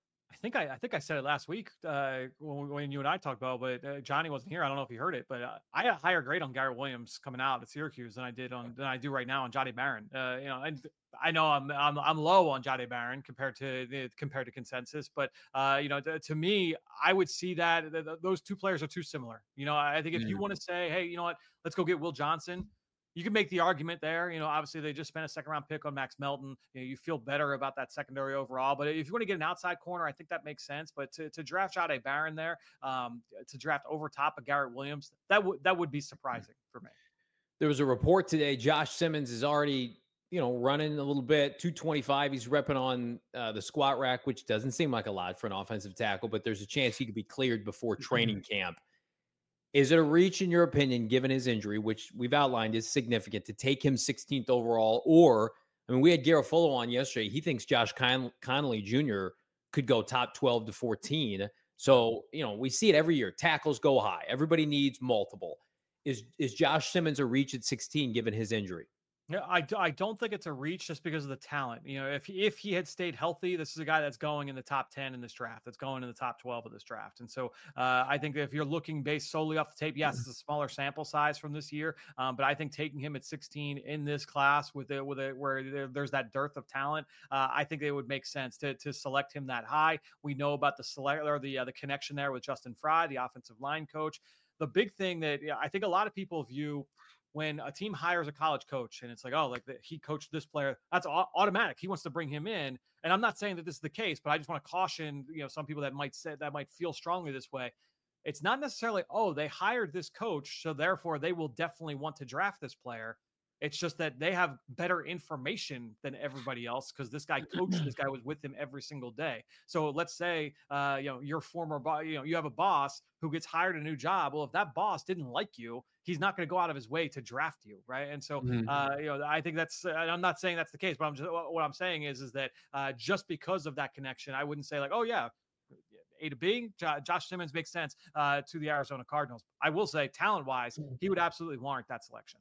I think I, I think I said it last week uh, when, when you and I talked about, but uh, Johnny wasn't here. I don't know if he heard it, but uh, I had a higher grade on Garrett Williams coming out at Syracuse than I did on than I do right now on Jahdae Barron. Uh, you know, and I know I'm I'm I'm low on Jahdae Barron compared to compared to consensus, but uh, you know, to, to me, I would see that th- th- those two players are too similar. You know, I think if mm. you want to say, hey, you know what, let's go get Will Johnson. You can make the argument there. You know, obviously they just spent a second round pick on Max Melton. You know, you feel better about that secondary overall. But if you want to get an outside corner, I think that makes sense. But to, to draft Jahdae Barron there, um, to draft over top of Garrett Williams, that would that would be surprising for me. There was a report today. Josh Simmons is already, you know, running a little bit, two twenty-five. He's repping on uh, the squat rack, which doesn't seem like a lot for an offensive tackle, but there's a chance he could be cleared before training camp. Is it a reach, in your opinion, given his injury, which we've outlined is significant, to take him sixteenth overall? Or, I mean, we had Garofalo on yesterday. He thinks Josh Con- Connolly Junior could go top twelve to fourteen. So, you know, we see it every year. Tackles go high. Everybody needs multiple. Is is Josh Simmons a reach at sixteen given his injury? Yeah, I, d- I don't think it's a reach just because of the talent. You know, if he, if he had stayed healthy, this is a guy that's going in the top ten in this draft. That's going in the top twelve of this draft. And so uh, I think if you're looking based solely off the tape, yes, it's a smaller sample size from this year. Um, but I think taking him at sixteen in this class with it, with it, where there, there's that dearth of talent, uh, I think it would make sense to to select him that high. We know about the select or the uh, the connection there with Justin Fry, the offensive line coach. The big thing that yeah, I think a lot of people view when a team hires a college coach and it's like, oh, like the, he coached this player, that's a- automatic. He wants to bring him in. And I'm not saying that this is the case, but I just want to caution, you know, some people that might say that might feel strongly this way. It's not necessarily, oh, they hired this coach, so therefore they will definitely want to draft this player. It's just that they have better information than everybody else because this guy coached, this guy was with him every single day. So let's say, uh, you know, your former boss, you know, you have a boss who gets hired a new job. Well, if that boss didn't like you, he's not going to go out of his way to draft you, right? And so, mm-hmm. uh, you know, I think that's. Uh, I'm not saying that's the case, but I'm just what I'm saying is, is that uh, just because of that connection, I wouldn't say like, oh yeah, A to B, J- Josh Simmons makes sense uh, to the Arizona Cardinals. I will say, talent-wise, he would absolutely warrant that selection.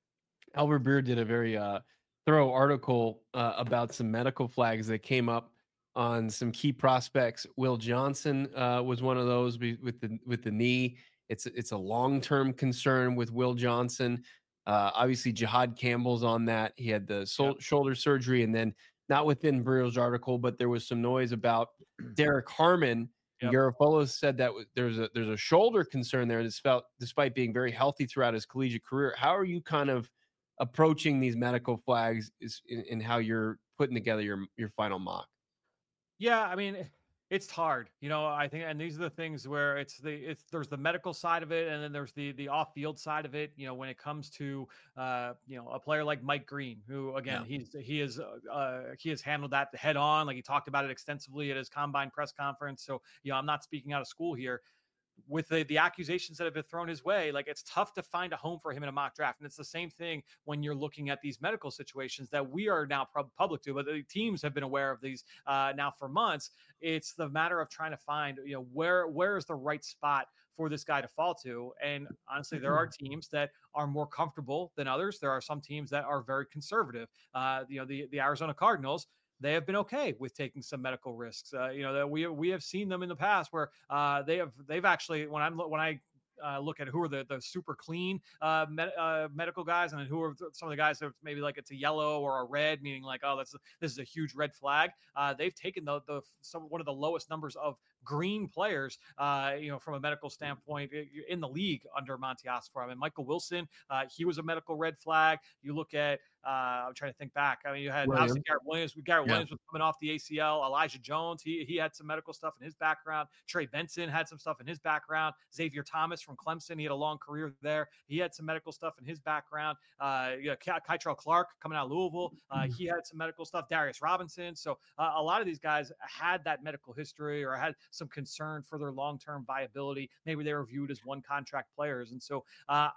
Albert Beer did a very uh, thorough article uh, about some medical flags that came up on some key prospects. Will Johnson uh, was one of those with the with the knee. It's it's a long-term concern with Will Johnson. Uh, obviously, Jihad Campbell's on that. He had the sol- yep. shoulder surgery, and then not within Brio's article, but there was some noise about Derek Harmon. Yep. Garofalo said that there's a there's a shoulder concern there, despite despite being very healthy throughout his collegiate career. How are you kind of approaching these medical flags is in, in how you're putting together your your final mock? Yeah, I mean, it's hard, you know, I think, and these are the things where it's the, it's, there's the medical side of it. And then there's the, the off field side of it. You know, when it comes to, uh, you know, a player like Mike Green, who again, yeah. he's, he is, uh, he has handled that head on. Like he talked about it extensively at his combine press conference. So, you know, I'm not speaking out of school here. With the, the accusations that have been thrown his way, like it's tough to find a home for him in a mock draft. And it's the same thing when you're looking at these medical situations that we are now pub- public to, but the teams have been aware of these uh, now for months. It's the matter of trying to find, you know, where, where is the right spot for this guy to fall to. And honestly, there are teams that are more comfortable than others. There are some teams that are very conservative. Uh, you know, the, the Arizona Cardinals, they have been okay with taking some medical risks. Uh, you know, that we we have seen them in the past where uh, they have they've actually when I'm when I uh, look at who are the the super clean uh, med, uh, medical guys and who are some of the guys that maybe like it's a yellow or a red, meaning like oh that's this is a huge red flag. Uh, they've taken the the some one of the lowest numbers of green players, uh, you know, from a medical standpoint in the league under Monty Ossenfort. I mean, Michael Wilson, uh, he was a medical red flag. You look at, uh, I'm trying to think back. I mean, you had William. obviously Garrett Williams. Garrett yeah. Williams was coming off the A C L. Elijah Jones, he he had some medical stuff in his background. Trey Benson had some stuff in his background. Xavier Thomas from Clemson, he had a long career there. He had some medical stuff in his background. Uh, you know, Kytrell Clark coming out of Louisville, uh, he had some medical stuff. Darius Robinson. So uh, a lot of these guys had that medical history or had some concern for their long-term viability. Maybe they were viewed as one contract players. And so uh,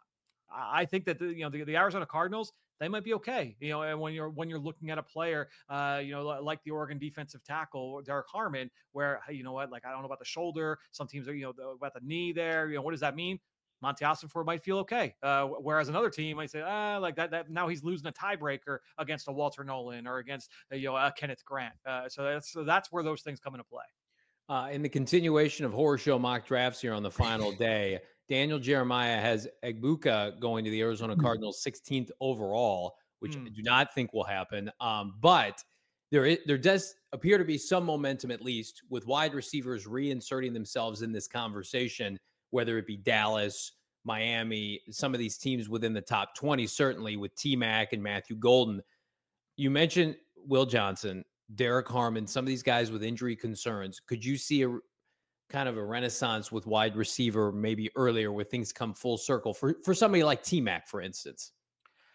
I think that, the, you know, the, the Arizona Cardinals, they might be okay. You know, and when you're, when you're looking at a player, uh, you know, like the Oregon defensive tackle, Derek Harmon, where, you know what, like, I don't know about the shoulder. Some teams are, you know, about the knee there, you know, what does that mean? Monty Ossenfort might feel okay. Uh, whereas another team might say, ah, like that, that now he's losing a tiebreaker against a Walter Nolan or against, uh, you know, a Kenneth Grant. Uh, so that's, so that's where those things come into play. Uh, in the continuation of horror show mock drafts here on the final day, Daniel Jeremiah has Egbuka going to the Arizona Cardinals sixteenth overall, which mm. I do not think will happen. Um, but there is, there does appear to be some momentum, at least, with wide receivers reinserting themselves in this conversation, whether it be Dallas, Miami, some of these teams within the top twenty, certainly with T-Mac and Matthew Golden. You mentioned Will Johnson, Derek Harmon, some of these guys with injury concerns. Could you see a kind of a renaissance with wide receiver maybe earlier where things come full circle for, for somebody like T-Mac, for instance?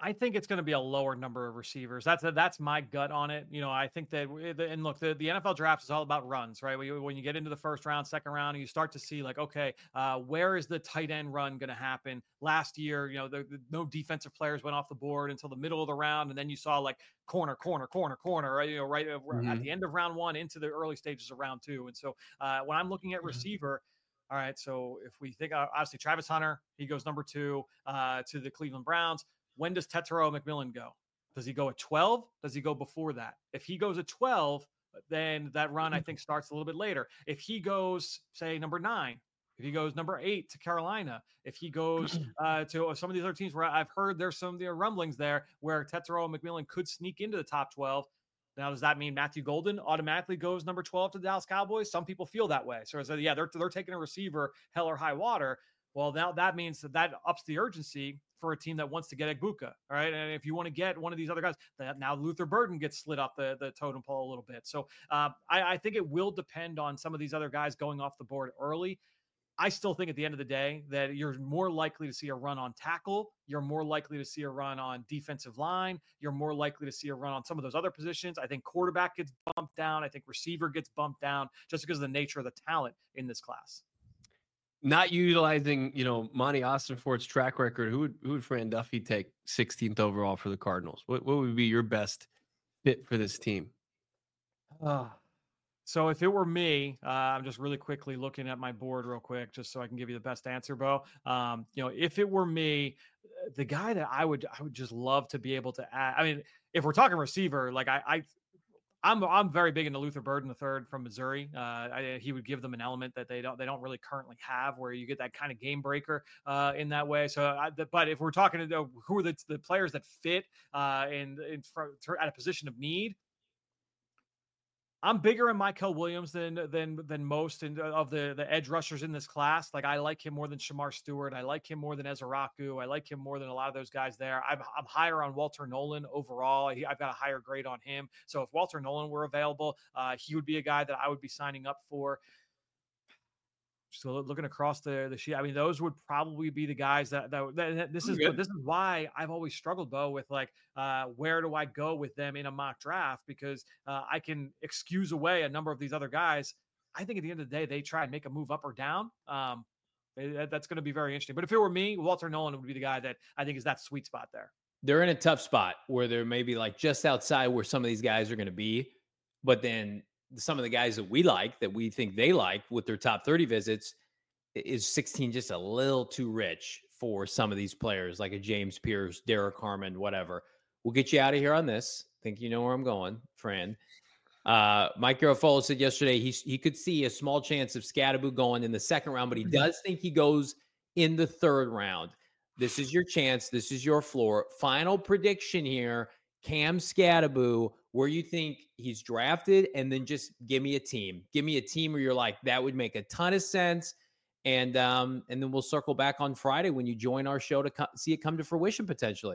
I think it's going to be a lower number of receivers. That's that's my gut on it. You know, I think that, and look, the, the N F L draft is all about runs, right? When you get into the first round, second round, you start to see like, okay, uh, where is the tight end run going to happen? Last year, you know, the, the, no defensive players went off the board until the middle of the round, and then you saw like corner, corner, corner, corner, right? You know, right mm-hmm. at the end of round one into the early stages of round two. And so uh, when I'm looking at receiver. All right, so if we think, uh, obviously, Travis Hunter, he goes number two uh, to the Cleveland Browns. When does Tetairoa McMillan go? Does he go at twelve? Does he go before that? If he goes at twelve, then that run, I think, starts a little bit later. If he goes, say, number nine, if he goes number eight to Carolina, if he goes uh, to some of these other teams where I've heard there's some there rumblings there where Tetairoa McMillan could sneak into the top twelve. Now, does that mean Matthew Golden automatically goes number twelve to the Dallas Cowboys? Some people feel that way. So, so yeah, they're, they're taking a receiver, hell or high water. Well, now that means that that ups the urgency for a team that wants to get Egbuka, all right? And if you want to get one of these other guys, that now Luther Burden gets slid up the, the totem pole a little bit. So uh, I, I think it will depend on some of these other guys going off the board early. I still think at the end of the day that you're more likely to see a run on tackle. You're more likely to see a run on defensive line. You're more likely to see a run on some of those other positions. I think quarterback gets bumped down. I think receiver gets bumped down just because of the nature of the talent in this class. Not utilizing, you know, Monty Austinfort's track record, who would who would Fran Duffy take sixteenth overall for the Cardinals? What what would be your best fit for this team? Uh, so if it were me, uh, I'm just really quickly looking at my board real quick, just so I can give you the best answer, Bo. Um, you know, if it were me, the guy that I would I would just love to be able to add. I mean, if we're talking receiver, like I. I I'm I'm very big into Luther Burden the third from Missouri. Uh, I, he would give them an element that they don't they don't really currently have, where you get that kind of game breaker uh, in that way. So, I, the, but if we're talking to who are the, the players that fit uh, in, in for, at a position of need, I'm bigger in Mykel Williams than than than most in, of the, the edge rushers in this class. Like I like him more than Shamar Stewart. I like him more than Ezraku. I like him more than a lot of those guys there. I'm I'm higher on Walter Nolan overall. He, I've got a higher grade on him. So if Walter Nolan were available, uh, he would be a guy that I would be signing up for. So looking across the the sheet, I mean, those would probably be the guys that, that, that this is this is why I've always struggled, Bo, with like uh, where do I go with them in a mock draft, because uh, I can excuse away a number of these other guys. I think at the end of the day, they try and make a move up or down. Um, that's going to be very interesting. But if it were me, Walter Nolan would be the guy that I think is that sweet spot there. They're in a tough spot where they're maybe like just outside where some of these guys are going to be, but then some of the guys that we like, that we think they like with their top thirty visits, is sixteen just a little too rich for some of these players, like a James Pierce, Derek Harmon, whatever. We'll get you out of here on this. Think you know where I'm going, friend. Uh, Mike Garofalo said yesterday he, he could see a small chance of Scadaboo going in the second round, but he does think he goes in the third round. This is your chance. This is your floor. Final prediction here. Cam Scadaboo, where you think he's drafted, and then just give me a team. Give me a team where you're like, that would make a ton of sense. And um, and then we'll circle back on Friday when you join our show to co- see it come to fruition potentially.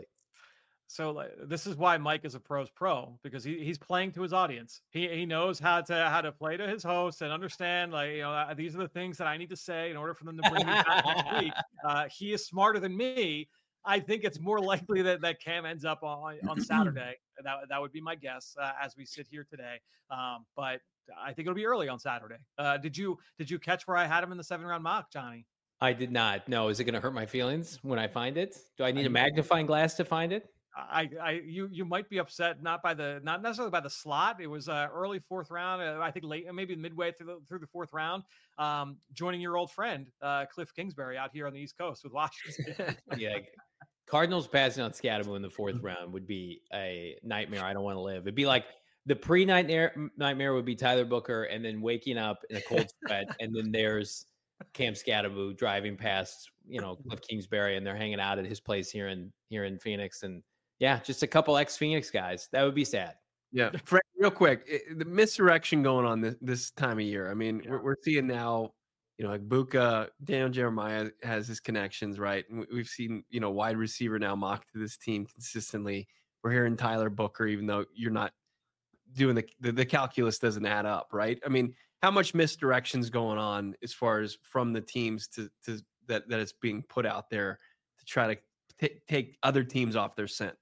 So like, this is why Mike is a pro's pro, because he, he's playing to his audience. He he knows how to how to play to his host and understand, like, you know, uh, these are the things that I need to say in order for them to bring me back next week. Uh, he is smarter than me. I think it's more likely that, that Cam ends up on, on Saturday. That, that would be my guess uh, as we sit here today. Um, but I think it'll be early on Saturday. Uh, did you did you catch where I had him in the seven round mock, Johnny? I did not. No. Is it going to hurt my feelings when I find it? Do I need a magnifying glass to find it? I, I, you, you might be upset not by the, not necessarily by the slot. It was uh, early fourth round. Uh, I think late, maybe midway through the through the fourth round. Um, joining your old friend uh, Cliff Kingsbury out here on the East Coast with Washington. Yeah, Cardinals passing on Scadaboo in the fourth round would be a nightmare. I don't want to live. It'd be like the pre-nightmare nightmare would be Tyler Booker, and then waking up in a cold sweat, and then there's Cam Scadaboo driving past, you know, Cliff Kingsbury, and they're hanging out at his place here in here in Phoenix, and yeah, just a couple ex-Phoenix guys. That would be sad. Yeah, Frank, real quick, it, the misdirection going on this, this time of year. I mean, yeah. we're, we're seeing now, you know, like Buka, Daniel Jeremiah has his connections, right? And we've seen, you know, wide receiver now mocked to this team consistently. We're hearing Tyler Booker, even though you're not doing the, the the calculus doesn't add up, right? I mean, how much misdirection's going on as far as from the teams to to that that it's being put out there to try to t- take other teams off their scent.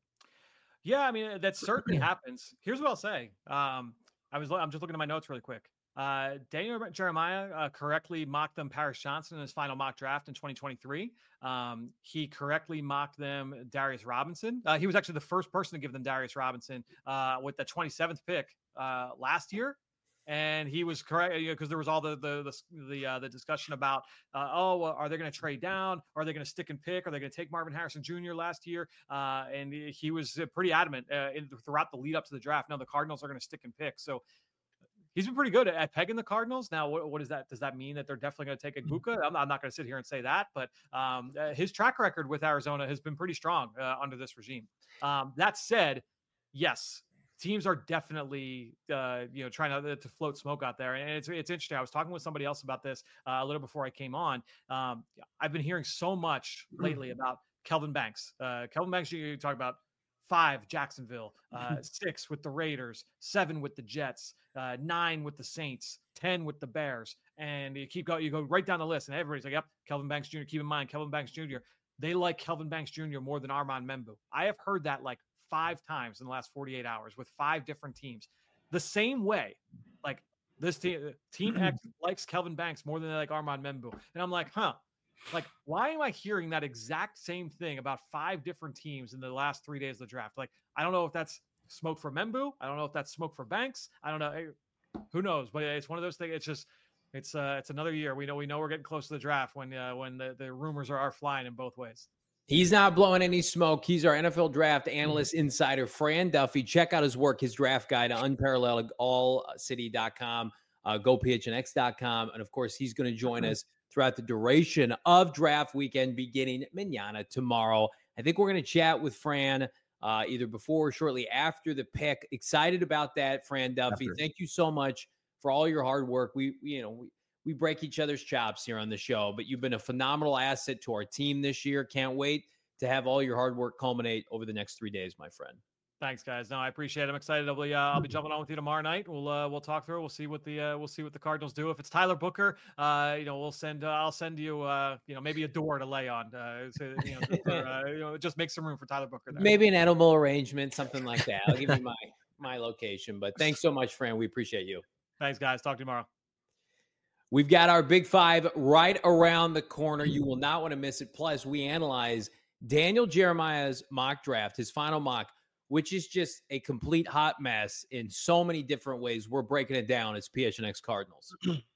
Yeah, I mean that certainly happens. Here's what I'll say. Um, I was I'm just looking at my notes really quick. Uh, Daniel Jeremiah uh, correctly mocked them Paris Johnson in his final mock draft in twenty twenty-three. Um, he correctly mocked them Darius Robinson. Uh, he was actually the first person to give them Darius Robinson uh, with the twenty-seventh pick uh, last year. And he was correct because you know, there was all the the the the, uh, the discussion about uh, oh are they going to trade down? Are they going to stick and pick? Are they going to take Marvin Harrison Junior last year? Uh, and he was pretty adamant uh, in, throughout the lead up to the draft. No, the Cardinals are going to stick and pick. So he's been pretty good at, at pegging the Cardinals. Now, what, what is that? Does that mean that they're definitely going to take Igbokwe? I'm, I'm not going to sit here and say that, but um, uh, his track record with Arizona has been pretty strong uh, under this regime. Um, that said, yes. Teams are definitely, uh, you know, trying to, to float smoke out there. And it's it's interesting. I was talking with somebody else about this uh, a little before I came on. Um, I've been hearing so much lately about Kelvin Banks. Uh, Kelvin Banks, you talk about five, Jacksonville, uh, six with the Raiders, seven with the Jets, uh, nine with the Saints, ten with the Bears. And you keep going, you go right down the list and everybody's like, yep, Kelvin Banks Junior Keep in mind, Kelvin Banks Junior They like Kelvin Banks Junior more than Armand Membu. I have heard that like five times in the last forty-eight hours with five different teams. The same way, like this team, Team X likes Kelvin Banks more than they like Armand Membu. And I'm like, huh, like, why am I hearing that exact same thing about five different teams in the last three days of the draft? Like, I don't know if that's smoke for Membu. I don't know if that's smoke for Banks. I don't know. Who knows? But it's one of those things. It's just, it's uh, it's another year. We know, we know we're getting close to the draft when, uh, when the, the rumors are, are flying in both ways. He's not blowing any smoke. He's our N F L draft analyst insider, Fran Duffy. Check out his work, his draft guide, unparalleled all city dot com, uh, go P H N X dot com. And, of course, he's going to join us throughout the duration of draft weekend beginning mañana tomorrow. I think we're going to chat with Fran uh, either before or shortly after the pick. Excited about that, Fran Duffy. After. Thank you so much for all your hard work. We, you know, we, We break each other's chops here on the show, but you've been a phenomenal asset to our team this year. Can't wait to have all your hard work culminate over the next three days, my friend. Thanks, guys. No, I appreciate it. I'm excited. I'll be, uh, I'll be jumping on with you tomorrow night. We'll uh, we'll talk through. We'll see what the uh, we'll see what the Cardinals do. If it's Tyler Booker, uh, you know, we'll send. Uh, I'll send you, uh, you know, maybe a door to lay on. Uh, so, you, know, for, uh, you know, just make some room for Tyler Booker there. Maybe an edible arrangement, something like that. I'll give you my my location. But thanks so much, Fran. We appreciate you. Thanks, guys. Talk to you tomorrow. We've got our Big Five right around the corner. You will not want to miss it. Plus, we analyze Daniel Jeremiah's mock draft, his final mock, which is just a complete hot mess in so many different ways. We're breaking it down as P H N X Cardinals.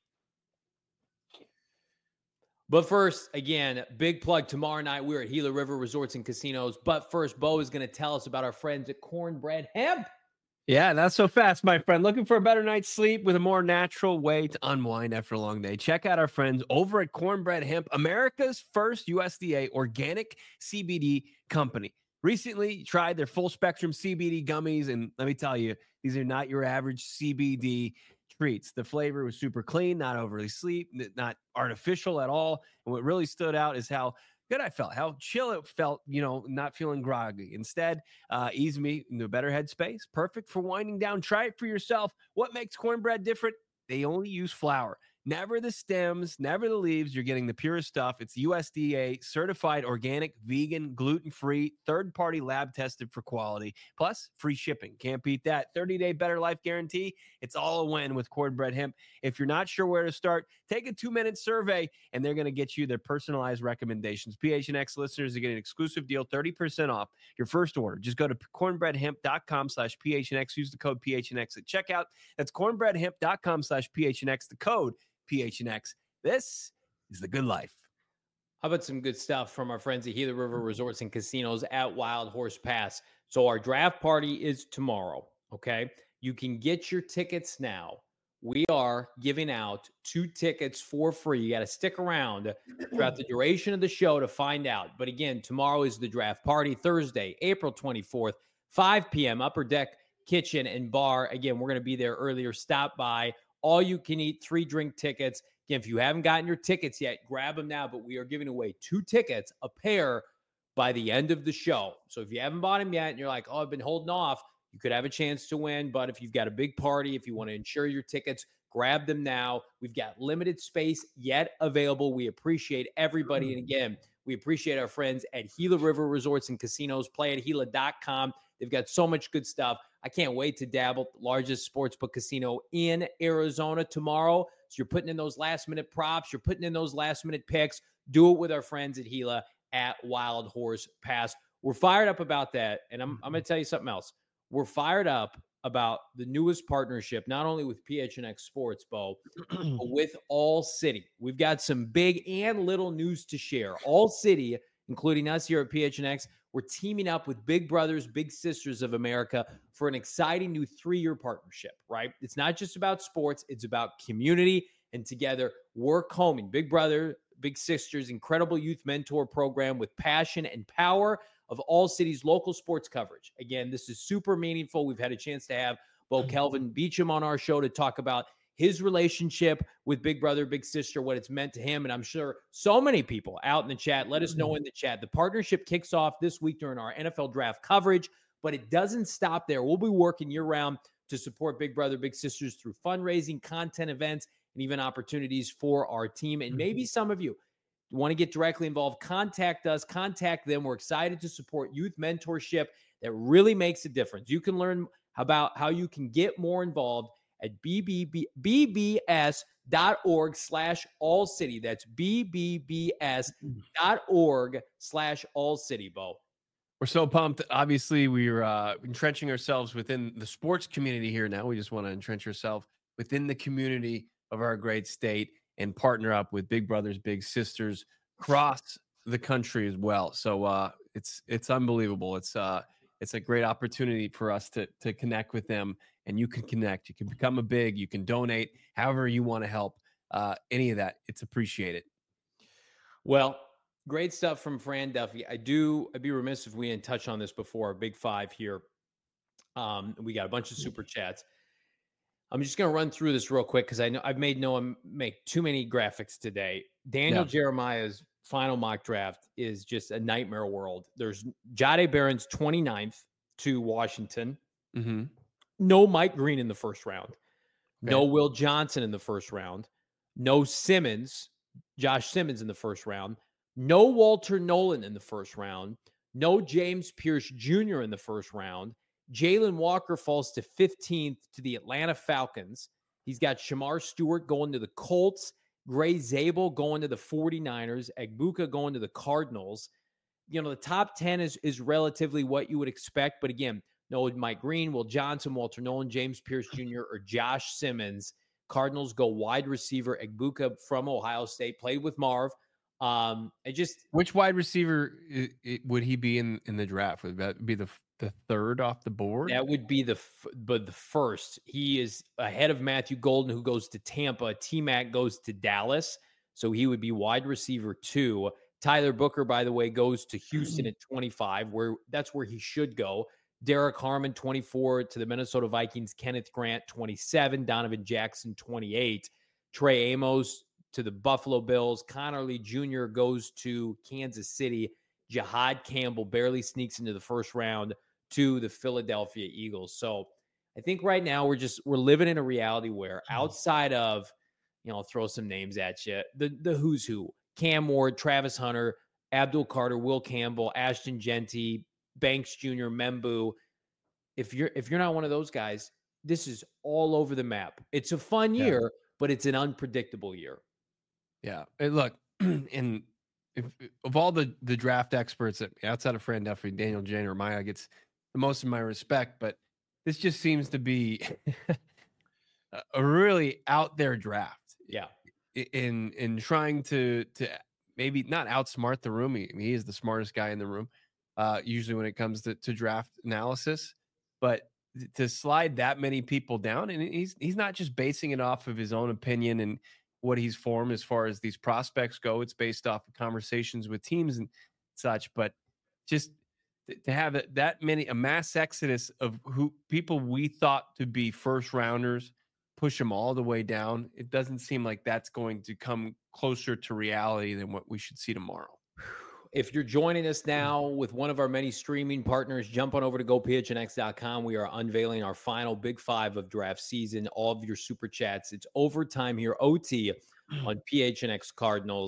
But first, again, big plug tomorrow night. We're at Gila River Resorts and Casinos. But first, Bo is going to tell us about our friends at Cornbread Hemp. Yeah, not so fast, my friend. Looking for a better night's sleep with a more natural way to unwind after a long day? Check out our friends over at Cornbread Hemp, America's first U S D A organic C B D company. Recently tried their full spectrum C B D gummies, and let me tell you, these are not your average C B D treats. The flavor was super clean, not overly sweet, not artificial at all. And what really stood out is how good I felt, how chill it felt, you know, not feeling groggy. Instead, uh, ease me into a better headspace. Perfect for winding down. Try it for yourself. What makes cornbread different? They only use flour. Never the stems, never the leaves. You're getting the purest stuff. It's U S D A certified organic, vegan, gluten-free, third-party lab tested for quality. Plus, free shipping. Can't beat that. thirty-day better life guarantee. It's all a win with Cornbread Hemp. If you're not sure where to start, take a two-minute survey, and they're going to get you their personalized recommendations. P H N X listeners are getting an exclusive deal, thirty percent off your first order. Just go to cornbreadhemp.com slash PHNX. Use the code P H N X at checkout. That's cornbreadhemp.com slash PHNX. The code P H N X. This is the good life. How about some good stuff from our friends at Gila River Resorts and Casinos at Wild Horse Pass? So our draft party is tomorrow, okay? You can get your tickets now. We are giving out two tickets for free. You got to stick around throughout the duration of the show to find out. But again, tomorrow is the draft party, Thursday, April twenty-fourth, five p.m., Upper Deck Kitchen and Bar. Again, we're going to be there earlier. Stop by. All you can eat, three drink tickets. Again, if you haven't gotten your tickets yet, grab them now. But we are giving away two tickets, a pair, by the end of the show. So if you haven't bought them yet and you're like, oh, I've been holding off, you could have a chance to win. But if you've got a big party, if you want to insure your tickets, grab them now. We've got limited space yet available. We appreciate everybody. And again, We appreciate our friends at Gila River Resorts and Casinos. Play at Gila dot com. They've got so much good stuff. I can't wait to dabble. Largest sportsbook casino in Arizona tomorrow. So you're putting in those last-minute props. You're putting in those last-minute picks. Do it with our friends at Gila at Wild Horse Pass. We're fired up about that. And I'm, I'm going to tell you something else. We're fired up about the newest partnership, not only with P H N X Sports, Bo, but with All City. We've got some big and little news to share. All City, including us here at P H N X, we're teaming up with Big Brothers, Big Sisters of America for an exciting new three-year partnership, right? It's not just about sports. It's about community, and together we're combing Big Brother, Big Sisters, incredible youth mentor program with passion and power of All City's local sports coverage. Again, this is super meaningful. We've had a chance to have Bo Kelvin Beacham on our show to talk about his relationship with Big Brother, Big Sister, what it's meant to him. And I'm sure so many people out in the chat, let us know in the chat. The partnership kicks off this week during our N F L draft coverage, but it doesn't stop there. We'll be working year round to support Big Brother, Big Sisters through fundraising, content events, and even opportunities for our team. And maybe some of you want to get directly involved, contact us, contact them. We're excited to support youth mentorship that really makes a difference. You can learn about how you can get more involved at B B S dot org slash all city. That's B B S dot org slash all city, Bo. We're so pumped. Obviously, we're uh, entrenching ourselves within the sports community here now. We just want to entrench ourselves within the community of our great state and partner up with Big Brothers, Big Sisters across the country as well. So uh, it's it's unbelievable. It's uh it's a great opportunity for us to to connect with them, and you can connect. You can become a big. You can donate, however you want to help. Uh, any of that, it's appreciated. Well, great stuff from Fran Duffy. I do. I'd be remiss if we didn't touch on this before. Big Five here. Um, we got a bunch of super chats. I'm just going to run through this real quick because I know I've made no one make too many graphics today. Daniel yeah. Jeremiah's final mock draft is just a nightmare world. There's Jahdae Barron's twenty-ninth to Washington. Mm-hmm. No Mike Green in the first round. Okay. No Will Johnson in the first round. No Simmons, Josh Simmons in the first round. No Walter Nolan in the first round. No James Pierce Junior in the first round. Jalen Walker falls to fifteenth to the Atlanta Falcons. He's got Shamar Stewart going to the Colts. Gray Zabel going to the forty-niners. Egbuka going to the Cardinals. You know, the top ten is, is relatively what you would expect. But again, no Mike Green, Will Johnson, Walter Nolan, James Pierce Junior, or Josh Simmons. Cardinals go wide receiver. Egbuka from Ohio State, played with Marv. Um, I just Which wide receiver it, it, would he be in, in the draft? Would that be the the third off the board? That would be the but the first. He is ahead of Matthew Golden, who goes to Tampa. T-Mac goes to Dallas, so he would be wide receiver two. Tyler Booker, by the way, goes to Houston at twenty-five, where that's where he should go. Derek Harmon, twenty-four, to the Minnesota Vikings. Kenneth Grant, twenty-seven. Donovan Jackson, twenty-eight. Trey Amos to the Buffalo Bills. Connor Lee Junior goes to Kansas City. Jahad Campbell barely sneaks into the first round to the Philadelphia Eagles. So I think right now we're just we're living in a reality where outside of, you know, I'll throw some names at you, the the who's who: Cam Ward, Travis Hunter, Abdul Carter, Will Campbell, Ashton Genty, Banks Junior, Membu. If you're if you're not one of those guys, this is all over the map. It's a fun year, yeah. but it's an unpredictable year. Yeah. And look, and if, of all the the draft experts that, outside of Fran Duffy, Daniel Jeremiah gets the most of my respect, but this just seems to be a really out there draft. Yeah. In in trying to to maybe not outsmart the room. He, he is the smartest guy in the room, uh, usually when it comes to, to draft analysis. But to slide that many people down, and he's he's not just basing it off of his own opinion and what he's formed as far as these prospects go. It's based off of conversations with teams and such. But just to have that many, a mass exodus of who people we thought to be first rounders, push them all the way down, it doesn't seem like that's going to come closer to reality than what we should see tomorrow. If you're joining us now with one of our many streaming partners, jump on over to go P H N X dot com. We are unveiling our final Big Five of draft season. All of your super chats. It's overtime here, O T, on P H N X Cardinals.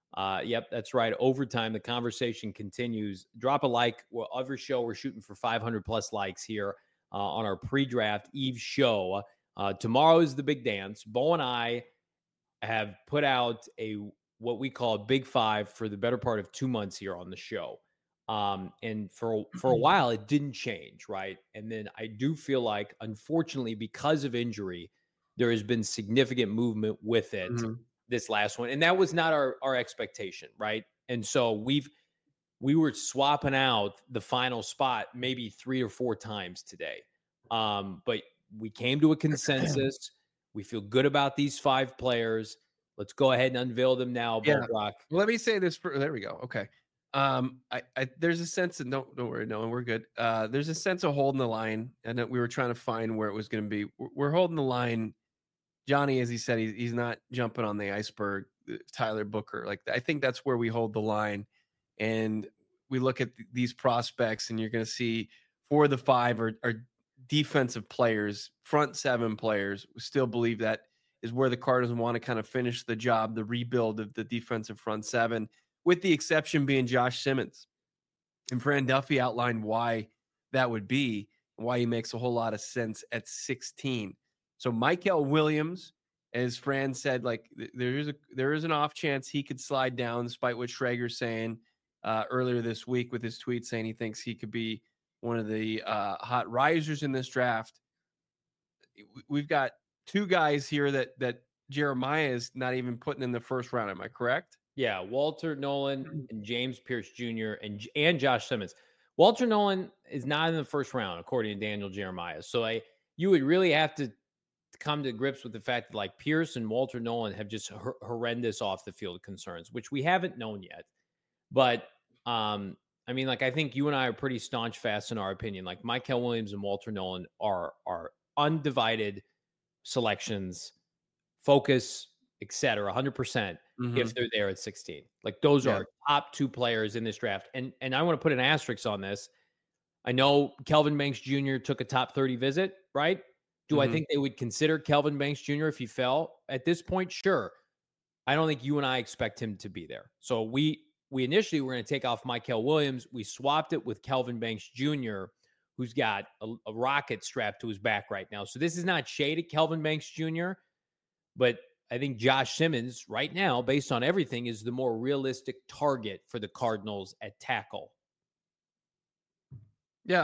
Uh, yep, that's right. Overtime, the conversation continues. Drop a like. Well, every show, we're shooting for five hundred plus likes here uh, on our pre-draft Eve show. Uh, tomorrow is the big dance. Bo and I have put out a what we call a big five for the better part of two months here on the show. Um, and for for a while, it didn't change, right? And then I do feel like, unfortunately, because of injury, there has been significant movement with it. Mm-hmm. This last one, and that was not our our expectation, right? And so we've we were swapping out the final spot maybe three or four times today, um, but we came to a consensus. We feel good about these five players. Let's go ahead and unveil them now, yeah. Bo Brock. Let me say this. For, there we go. Okay. Um, I, I there's a sense of no, don't worry, no, we're good. Uh, there's a sense of holding the line, and we were trying to find where it was going to be. We're, we're holding the line. Johnny, as he said, he's, he's not jumping on the iceberg. Tyler Booker, like I think that's where we hold the line, and we look at th- these prospects, and you're going to see four of the five are, are defensive players, front seven players. We still believe that is where the Cardinals want to kind of finish the job, the rebuild of the defensive front seven, with the exception being Josh Simmons. And Fran Duffy outlined why that would be, and why he makes a whole lot of sense at sixteen. So Michael Williams, as Fran said, like there is a there is an off chance he could slide down, despite what Schrager's saying uh, earlier this week with his tweet saying he thinks he could be one of the uh, hot risers in this draft. We've got two guys here that that Jeremiah is not even putting in the first round. Am I correct? Yeah, Walter Nolan and James Pierce Junior and and Josh Simmons. Walter Nolan is not in the first round, according to Daniel Jeremiah. So I you would really have to come to grips with the fact that like Pierce and Walter Nolan have just hor- horrendous off the field concerns, which we haven't known yet. But um, I mean, like I think you and I are pretty staunch fast in our opinion. Like Michael Williams and Walter Nolan are are undivided selections, focus, et cetera, one hundred percent mm-hmm. if they're there at sixteen. Like those yeah. are top two players in this draft. And and I want to put an asterisk on this. I know Kelvin Banks Junior took a top thirty visit, right? Do mm-hmm. I think they would consider Kelvin Banks Junior if he fell at this point? Sure. I don't think you and I expect him to be there. So we we initially were going to take off Michael Williams. We swapped it with Kelvin Banks Junior, who's got a, a rocket strapped to his back right now. So this is not shade at Kelvin Banks Junior, but I think Josh Simmons right now, based on everything, is the more realistic target for the Cardinals at tackle. Yeah.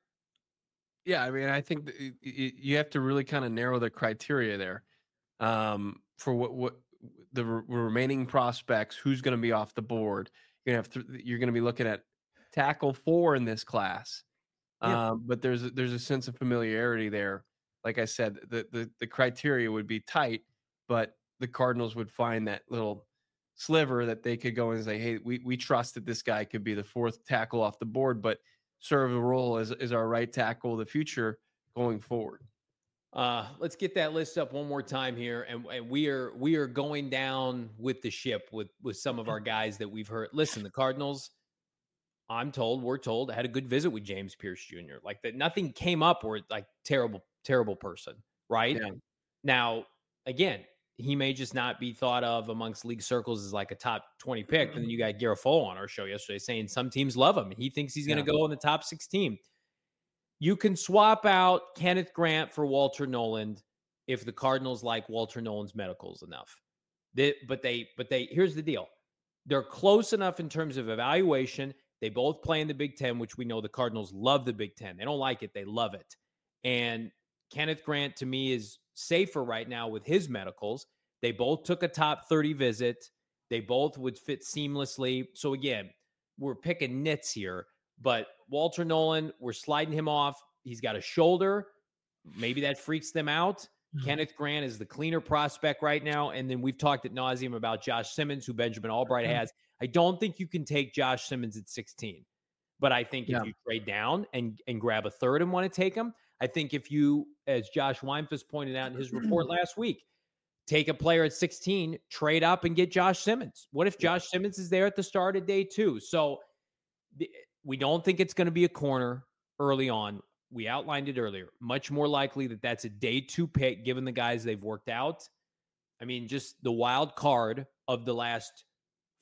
Yeah, I mean, I think you have to really kind of narrow the criteria there um, for what what the re- remaining prospects. Who's going to be off the board? You're gonna have th- you're going to be looking at tackle four in this class, yeah. um, but there's a, there's a sense of familiarity there. Like I said, the, the the criteria would be tight, but the Cardinals would find that little sliver that they could go and say, "Hey, we we trust that this guy could be the fourth tackle off the board," but serve a role as, as our right tackle of the future going forward. Uh, let's get that list up one more time here. And, and we are we are going down with the ship with, with some of our guys that we've heard. Listen, the Cardinals, I'm told, we're told, had a good visit with James Pierce Junior Like that nothing came up where like terrible, terrible person, right? Yeah. Now, again, he may just not be thought of amongst league circles as like a top twenty pick. And then you got Garofalo on our show yesterday saying some teams love him and he thinks he's going to yeah. go in the top sixteen. You can swap out Kenneth Grant for Walter Nolan if the Cardinals like Walter Nolan's medicals enough. They, but they, but they, here's the deal. They're close enough in terms of evaluation. They both play in the Big Ten, which we know the Cardinals love the Big Ten. They don't like it. They love it. And Kenneth Grant to me is safer right now with his medicals. They both took a top thirty visit. They both would fit seamlessly. So again, we're picking nits here, but Walter Nolan, we're sliding him off. He's got a shoulder. Maybe that freaks them out. Mm-hmm. Kenneth Grant is the cleaner prospect right now. And then we've talked ad nauseum about Josh Simmons, who Benjamin Albright mm-hmm. has. I don't think you can take Josh Simmons at sixteen, but I think yeah. if you trade down and, and grab a third and want to take him, I think if you, as Josh Weinfuss pointed out in his report last week, take a player at sixteen, trade up and get Josh Simmons. What if Josh Simmons is there at the start of day two? So the, we don't think it's going to be a corner early on. We outlined it earlier. Much more likely that that's a day two pick, given the guys they've worked out. I mean, just the wild card of the last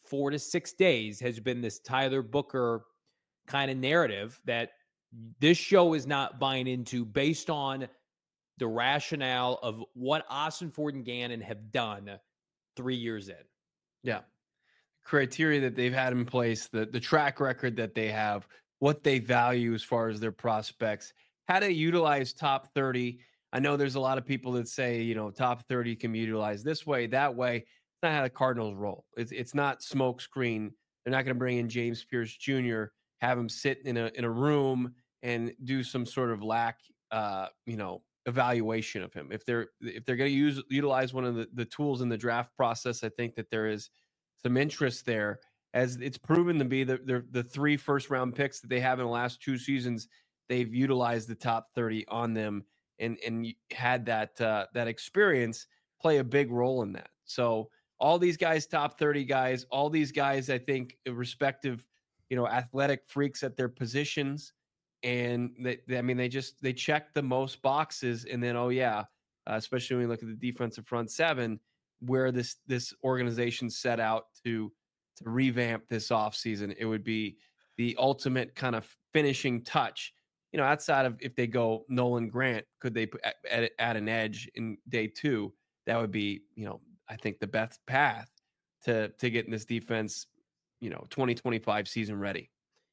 four to six days has been this Tyler Booker kind of narrative that this show is not buying into based on the rationale of what Austin Ford and Gannon have done three years in. Yeah. Criteria that they've had in place, the, the track record that they have, what they value as far as their prospects, how to utilize top thirty. I know there's a lot of people that say, you know, top thirty can be utilized this way, that way. It's not how the Cardinals roll. It's it's not smoke screen. They're not going to bring in James Pierce Junior, have him sit in a in a room and do some sort of lack, uh, you know, evaluation of him. If they're if they're going to use utilize one of the, the tools in the draft process, I think that there is some interest there, as it's proven to be the the, the three first round picks that they have in the last two seasons. They've utilized the top thirty on them and and had that uh, that experience play a big role in that. So all these guys, top thirty guys, all these guys, I think, respective, you know, athletic freaks at their positions. And they, they I mean, they just, they check the most boxes. And then, oh yeah, uh, especially when we look at the defensive front seven, where this, this organization set out to, to revamp this offseason, it would be the ultimate kind of finishing touch, you know, outside of if they go Nolan Grant, could they add, add an edge in day two? That would be, you know, I think the best path to to getting this defense, you know, twenty twenty-five season ready.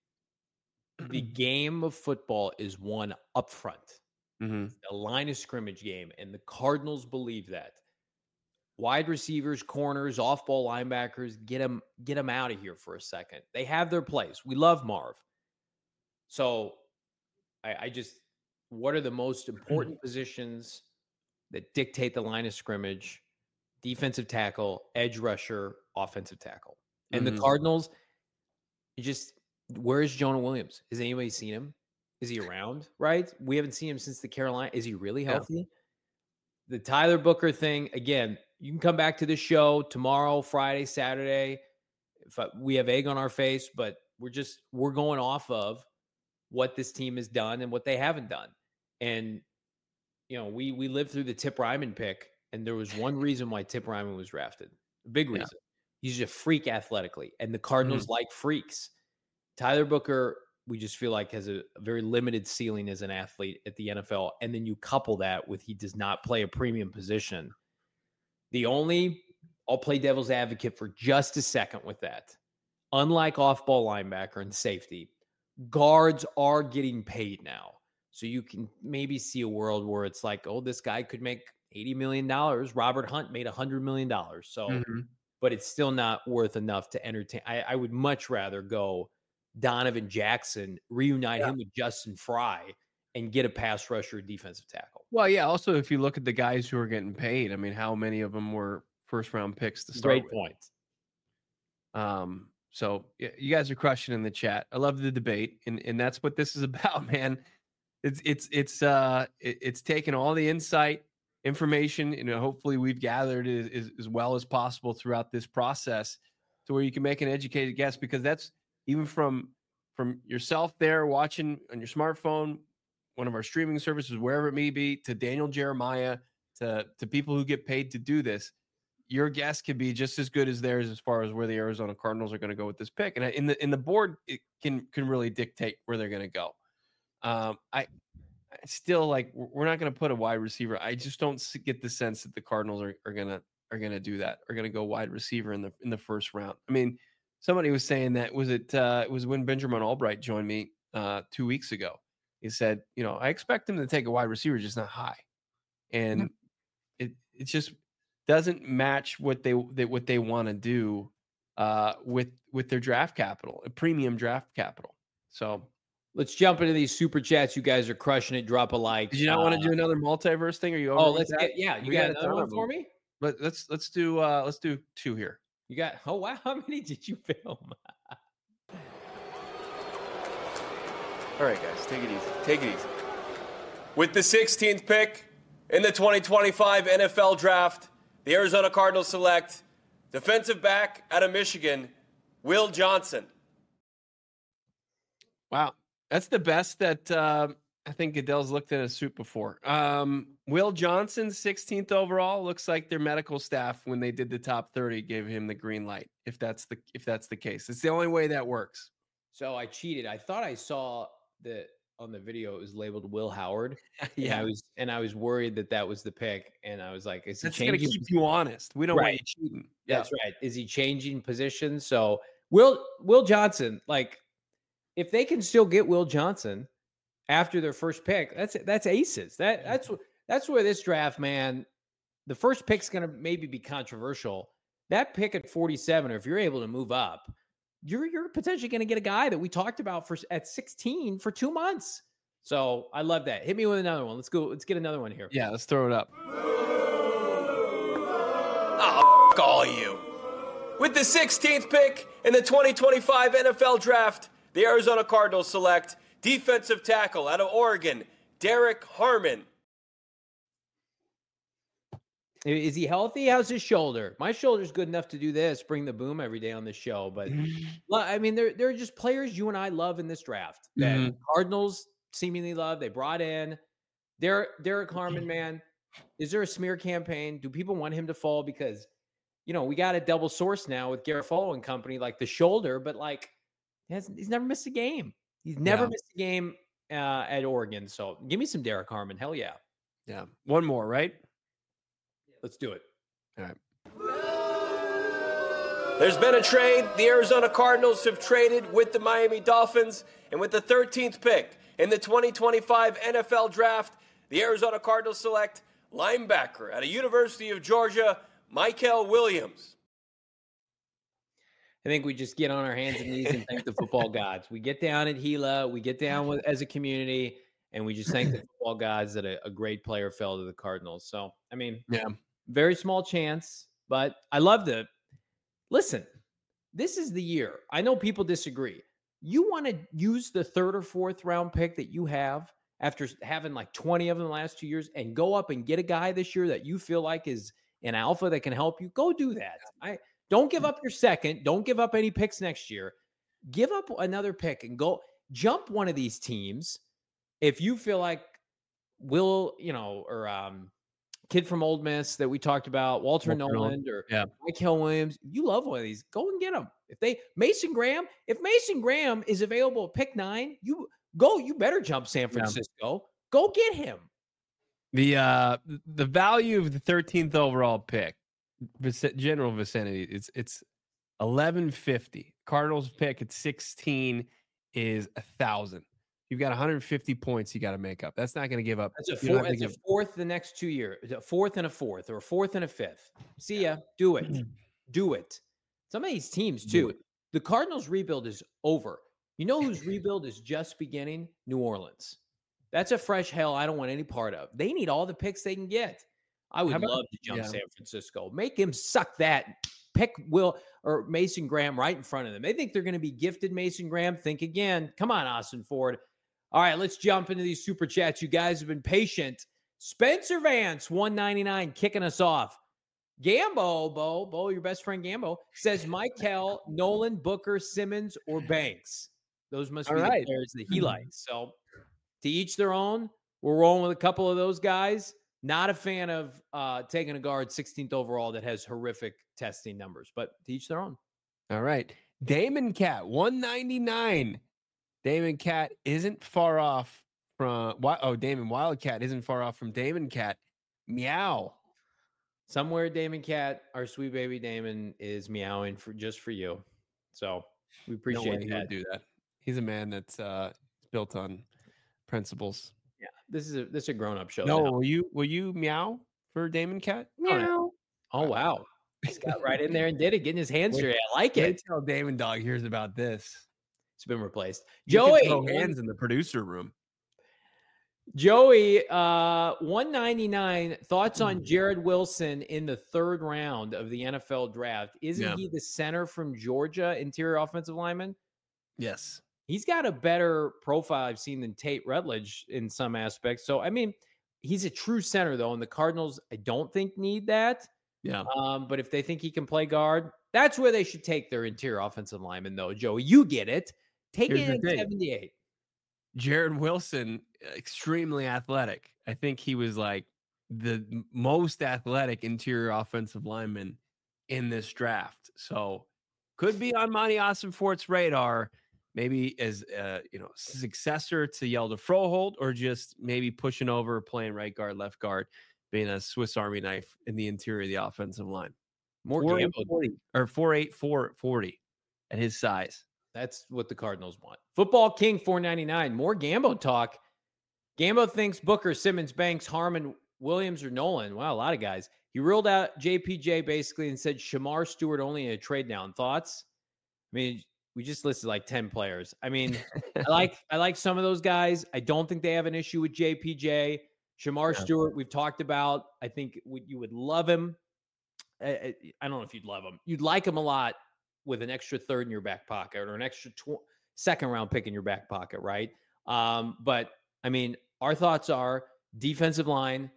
The game of football is won up front. Mm-hmm. The line of scrimmage game, and the Cardinals believe that. Wide receivers, corners, off-ball linebackers, get them, get them out of here for a second. They have their place. We love Marv. So I, I just, what are the most important positions that dictate the line of scrimmage? Defensive tackle, edge rusher, offensive tackle. And Mm-hmm. the Cardinals, you just, where is Jonah Williams? Has anybody seen him? Is he around? Right? We haven't seen him since the Carolina. Is he really healthy? Yeah. The Tyler Booker thing, again, you can come back to the show tomorrow, Friday, Saturday. If I, we have egg on our face, but we're just, we're going off of what this team has done and what they haven't done. And, you know, we we lived through the Tip Ryman pick, and there was one reason why Tip Ryman was drafted. A big reason. Yeah. He's a freak athletically, and the Cardinals mm-hmm. like freaks. Tyler Booker, we just feel like has a, a very limited ceiling as an athlete at the N F L. And then you couple that with he does not play a premium position. The only, I'll play devil's advocate for just a second with that. Unlike off-ball linebacker and safety, guards are getting paid now. So you can maybe see a world where it's like, oh, this guy could make eighty million dollars. Robert Hunt made one hundred million dollars. So, mm-hmm. but it's still not worth enough to entertain. I, I would much rather go Donovan Jackson, reunite yeah. him with Justin Fry, and get a pass rusher, defensive tackle. Well, yeah. Also, if you look at the guys who are getting paid, I mean, how many of them were first round picks to start Great with? point. Um, so yeah, you guys are crushing in the chat. I love the debate, and and that's what this is about, man. It's it's it's uh it, it's taken all the insight, information, and hopefully we've gathered as, as, as well as possible throughout this process, to where you can make an educated guess. Because that's even from from yourself there watching on your smartphone, one of our streaming services, wherever it may be, to Daniel Jeremiah, to to people who get paid to do this. Your guess could be just as good as theirs as far as where the Arizona Cardinals are going to go with this pick. And in the in the board, it can can really dictate where they're going to go. Um, I, I still like we're not going to put a wide receiver. I just don't get the sense that the Cardinals are, are gonna are gonna do that. Are gonna go wide receiver in the in the first round. I mean, somebody was saying that was it uh, it was when Benjamin Albright joined me uh, two weeks ago. He said, you know, I expect him to take a wide receiver, just not high, and mm-hmm. it it just doesn't match what they, they what they want to do uh, with with their draft capital, a premium draft capital. So. Let's jump into these super chats. You guys are crushing it. Drop a like. Did you not uh, want to do another multiverse thing? Are you over? Oh, let's get, yeah. You we got another one for me? But let's let's do uh let's do two here. You got oh wow, how many did you film? All right, guys, take it easy. Take it easy. With the sixteenth pick in the twenty twenty-five N F L Draft, the Arizona Cardinals select defensive back out of Michigan, Will Johnson. Wow. That's the best that uh, I think Goodell's looked in a suit before. Um, Will Johnson, sixteenth overall. Looks like their medical staff, when they did the top thirty, gave him the green light. If that's the if that's the case, it's the only way that works. So I cheated. I thought I saw that on the video. It was labeled Will Howard. Yeah, and I was and I was worried that that was the pick. And I was like, is he that's gonna changing? keep you honest. We don't want Right. you cheating. That's right. Is he changing positions? So Will Will Johnson, like, if they can still get Will Johnson after their first pick, that's that's aces. That that's that's where this draft, man. The first pick's going to maybe be controversial. That pick at forty-seven, or if you're able to move up, you're you're potentially going to get a guy that we talked about for at sixteen for two months. So I love that. Hit me with another one. Let's go. Let's get another one here. Yeah, let's throw it up. Oh, f- all you. With the sixteenth pick in the twenty twenty-five N F L Draft, the Arizona Cardinals select defensive tackle out of Oregon, Derek Harmon. Is he healthy? How's his shoulder? My shoulder's good enough to do this, bring the boom every day on this show. But well, I mean, there, there are just players you and I love in this draft that Mhm. Cardinals seemingly love. They brought in Derek, Derek Harmon, man. Is there a smear campaign? Do people want him to fall? Because, you know, we got a double source now with Garofalo and company, like the shoulder, but like he has, he's never missed a game. He's never Yeah. missed a game uh, at Oregon. So give me some Derek Harmon. Hell yeah. Yeah, one more, right? Let's do it. All right. There's been a trade. The Arizona Cardinals have traded with the Miami Dolphins. And with the thirteenth pick in the twenty twenty-five N F L Draft, the Arizona Cardinals select linebacker at a University of Georgia, Michael Williams. I think we just get on our hands and knees and thank the football gods. We get down at Gila, we get down with, as a community, and we just thank the football gods that a, a great player fell to the Cardinals. So, I mean, Yeah. very small chance, but I love the listen. This is the year. I know people disagree. You want to use the third or fourth round pick that you have after having like twenty of them the last two years and go up and get a guy this year that you feel like is an alpha that can help you. Go do that. I don't give up your second. Don't give up any picks next year. Give up another pick and go jump one of these teams. If you feel like Will, you know, or um, kid from Ole Miss that we talked about, Walter, Walter Nolan, Nolan, or yeah. Michael Williams, you love one of these. Go and get them. If they Mason Graham, if Mason Graham is available at pick nine, you go. You better jump San Francisco. Go get him. The uh the value of the thirteenth overall pick, vic- general vicinity, it's it's eleven fifty. Cardinals pick at sixteen is a thousand. You've got one hundred fifty points you got to make up. That's not going to give up. That's a, You don't four, have to that's a give- fourth the next two years. A fourth and a fourth, or a fourth and a fifth. See ya. Do it. Do it. Some of these teams, Do too. it. The Cardinals rebuild is over. You know whose rebuild is just beginning? New Orleans. That's a fresh hell I don't want any part of. They need all the picks they can get. I would How about- love to jump yeah. San Francisco. Make him suck that. Pick Will or Mason Graham right in front of them. They think they're going to be gifted Mason Graham. Think again. Come on, Austin Ford. All right, let's jump into these super chats. You guys have been patient. Spencer Vance, one ninety-nine, kicking us off. Gambo, Bo, Bo, your best friend Gambo, says Michael, Nolan, Booker, Simmons, or Banks. Those must All be right. the players that he likes. So to each their own. We're rolling with a couple of those guys. Not a fan of uh, taking a guard sixteenth overall that has horrific testing numbers, but to each their own. All right. Damon Cat, one ninety-nine. Damon Cat isn't far off from Wi- oh, Damon Wildcat isn't far off from Damon Cat. Meow. Somewhere Damon Cat, our sweet baby Damon, is meowing for just for you. So we No way appreciate he that. would do that. He's a man that's uh built on principles. Yeah, this is a this is a grown up show. No, now. will you will you meow for Damon Cat? Meow. Oh wow, he's got right in there and did it, getting his hands Wait- straight. I like Wait it. till Damon Dog hears about this. It's been replaced. You can Joey, throw one- hands in the producer room. Joey, uh, one ninety-nine. Thoughts on Jared Wilson in the third round of the N F L draft? Isn't Yeah. he the center from Georgia, interior offensive lineman? Yes. He's got a better profile I've seen than Tate Rutledge in some aspects. So, I mean, he's a true center, though, and the Cardinals, I don't think, need that. Yeah. Um, but if they think he can play guard, that's where they should take their interior offensive lineman, though. Joey, you get it. Take Here's it the at thing. seventy-eight. Jared Wilson extremely athletic. I think he was like the most athletic interior offensive lineman in this draft. So could be on Monty Ossenfort's radar, maybe as a, you know, successor to Yelda Froholt, or just maybe pushing over, playing right guard, left guard, being a Swiss Army knife in the interior of the offensive line. More four Gambo. forty or four eight four forty at his size. That's what the Cardinals want. Football King four ninety-nine. More Gambo talk. Gambo thinks Booker, Simmons, Banks, Harmon, Williams, or Nolan. Wow, a lot of guys. He ruled out J P J basically and said Shamar Stewart only in a trade down. Thoughts? I mean, we just listed like ten players. I mean, I like I like some of those guys. I don't think they have an issue with J P J. Shamar yeah. Stewart, we've talked about. I think you would love him. I, I don't know if you'd love him. You'd like him a lot with an extra third in your back pocket or an extra tw- second round pick in your back pocket, right? Um, but, I mean, our thoughts are defensive line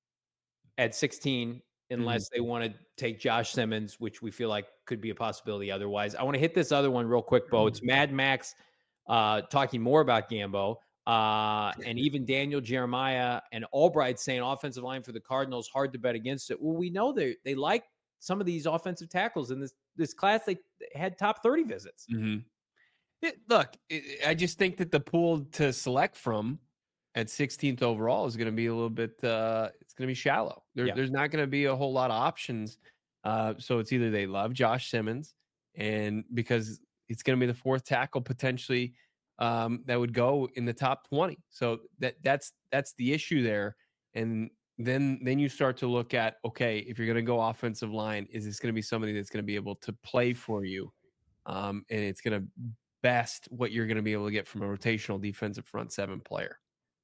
at sixteen, unless mm-hmm. they want to take Josh Simmons, which we feel like could be a possibility otherwise. I want to hit this other one real quick, Bo. It's Mad Max uh, talking more about Gambo. Uh, and even Daniel Jeremiah and Albright saying offensive line for the Cardinals, hard to bet against it. Well, we know they they like some of these offensive tackles in this this class. They had top thirty visits. Mm-hmm. It, look, it, I just think that the pool to select from at sixteenth overall is going to be a little bit. Uh, it's going to be shallow. There, yeah. There's not going to be a whole lot of options. Uh, so it's either they love Josh Simmons, and because it's going to be the fourth tackle potentially. Um, that would go in the top twenty. So that that's that's the issue there. And then then you start to look at, okay, if you're going to go offensive line, is this going to be somebody that's going to be able to play for you? Um, and it's going to best what you're going to be able to get from a rotational defensive front seven player.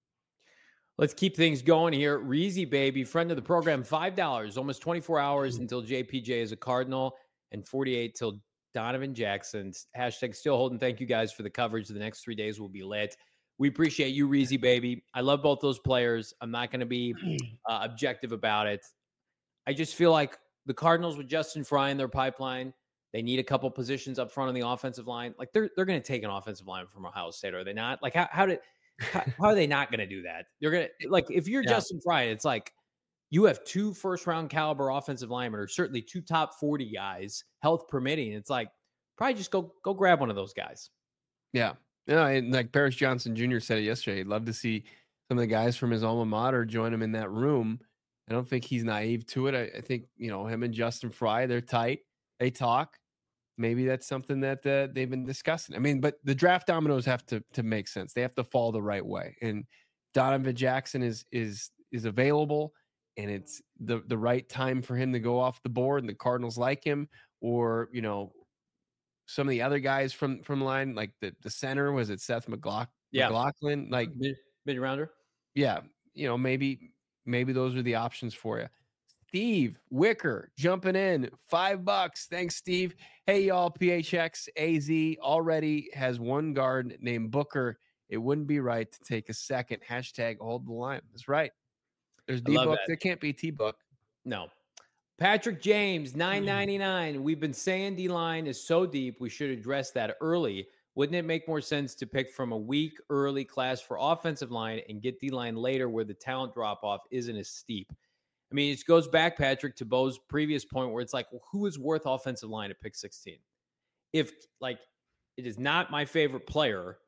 Let's keep things going here. Reezy Baby, friend of the program, five dollars, almost twenty-four hours until J P J is a Cardinal, and forty-eight till Donovan Jackson's. Hashtag still holding. Thank you guys for the coverage. The next three days will be lit. We appreciate you, Reezy Baby. I love both those players. I'm not going to be uh, objective about it. I just feel like the Cardinals with Justin Fry in their pipeline, they need a couple positions up front on the offensive line. Like they're they're going to take an offensive line from Ohio State, are they not? Like how how did how, how are they not going to do that? They're going to, like, if you're yeah. Justin Fry, it's like you have two first round caliber offensive linemen, or certainly two top forty guys, health permitting. It's like, probably just go, go grab one of those guys. Yeah. Yeah. And like Paris Johnson Junior said it yesterday, he'd love to see some of the guys from his alma mater join him in that room. I don't think he's naive to it. I, I think, you know, him and Justin Fry, they're tight. They talk. Maybe that's something that uh, they've been discussing. I mean, but the draft dominoes have to to make sense. They have to fall the right way. And Donovan Jackson is is is available, and it's the the right time for him to go off the board. And the Cardinals like him, or you know, some of the other guys from from line, like the the center, was it Seth McLaughlin? Yeah. McLaughlin, like mid mid rounder. Yeah, you know, maybe maybe those are the options for you. Steve Wicker jumping in, five bucks. Thanks, Steve. Hey, y'all, P H X A Z already has one guard named Booker. It wouldn't be right to take a second. Hashtag hold the line. That's right. There's D-Book. There can't be T-Book. No. Patrick James, nine ninety-nine. We've been saying D-line is so deep, we should address that early. Wouldn't it make more sense to pick from a weak early class for offensive line and get D-line later where the talent drop-off isn't as steep? I mean, it goes back, Patrick, to Bo's previous point where it's like, well, who is worth offensive line at pick sixteen? If, like, it is not my favorite player,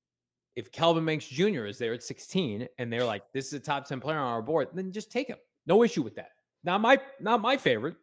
if Kelvin Banks Junior is there at sixteen and they're like, this is a top ten player on our board, then just take him. No issue with that. Not my not my favorite.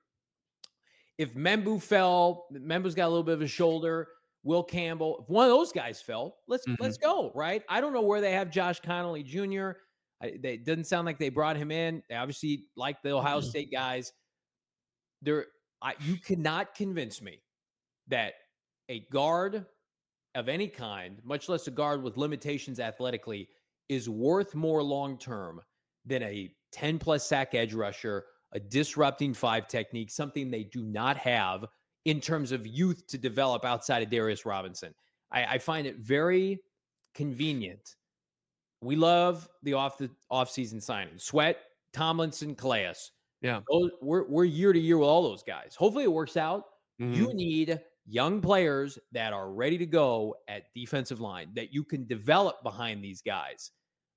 If Membu fell, Membu's got a little bit of a shoulder, Will Campbell, if one of those guys fell, let's mm-hmm. let's go, right? I don't know where they have Josh Connolly Junior I, they, it doesn't sound like they brought him in. They obviously like the Ohio mm-hmm. State guys. There, I, you cannot convince me that a guard of any kind, much less a guard with limitations athletically, is worth more long-term than a ten-plus sack edge rusher, a disrupting five technique, something they do not have in terms of youth to develop outside of Darius Robinson. I, I find it very convenient. We love the off the off-season signing. Sweat, Tomlinson, Calais. Yeah. Those, we're, we're year to year with all those guys. Hopefully it works out. Mm-hmm. You need young players that are ready to go at defensive line, that you can develop behind these guys.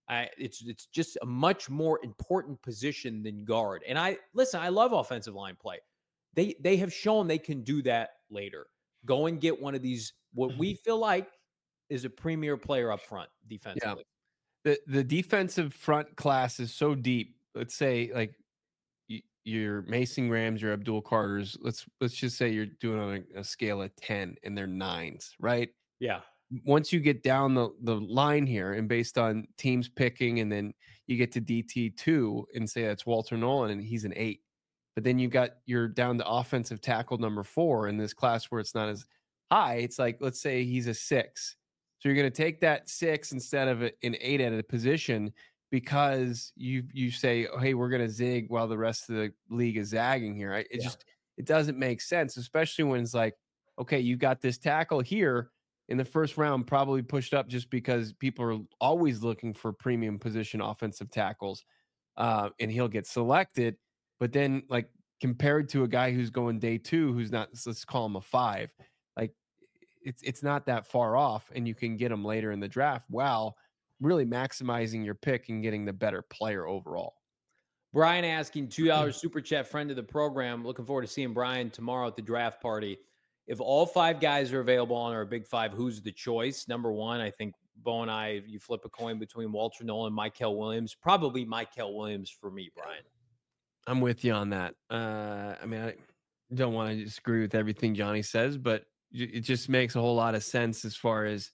I, it's it's just a much more important position than guard. And I listen, I love offensive line play. They they have shown they can do that later. Go and get one of these, what we feel like is a premier player up front defensively. Yeah. The the defensive front class is so deep. Let's say like y- your Mason Grahams, your Abdul Carters. Let's let's just say you're doing on a, a scale of ten and they're nines, right? Yeah. Once you get down the, the line here and based on teams picking, and then you get to D T two and say that's Walter Nolan and he's an eight. But then you got you're down to offensive tackle number four in this class where it's not as high. It's like, let's say he's a six. So you're going to take that six instead of an eight at a position because you you say, oh, hey, we're going to zig while the rest of the league is zagging here. It Yeah. just it doesn't make sense, especially when it's like, okay, you got this tackle here in the first round, probably pushed up just because people are always looking for premium position offensive tackles, uh, and he'll get selected. But then, like, compared to a guy who's going day two, who's not, let's call him a five, like, it's it's not that far off, and you can get him later in the draft while really maximizing your pick and getting the better player overall. Brian asking two dollars super chat, friend of the program. Looking forward to seeing Brian tomorrow at the draft party. If all five guys are available on our big five, who's the choice? Number one, I think Bo and I, you flip a coin between Walter Nolan and Mykel Williams. Probably Mykel Williams for me, Brian. I'm with you on that. Uh, I mean, I don't want to disagree with everything Johnny says, but it just makes a whole lot of sense as far as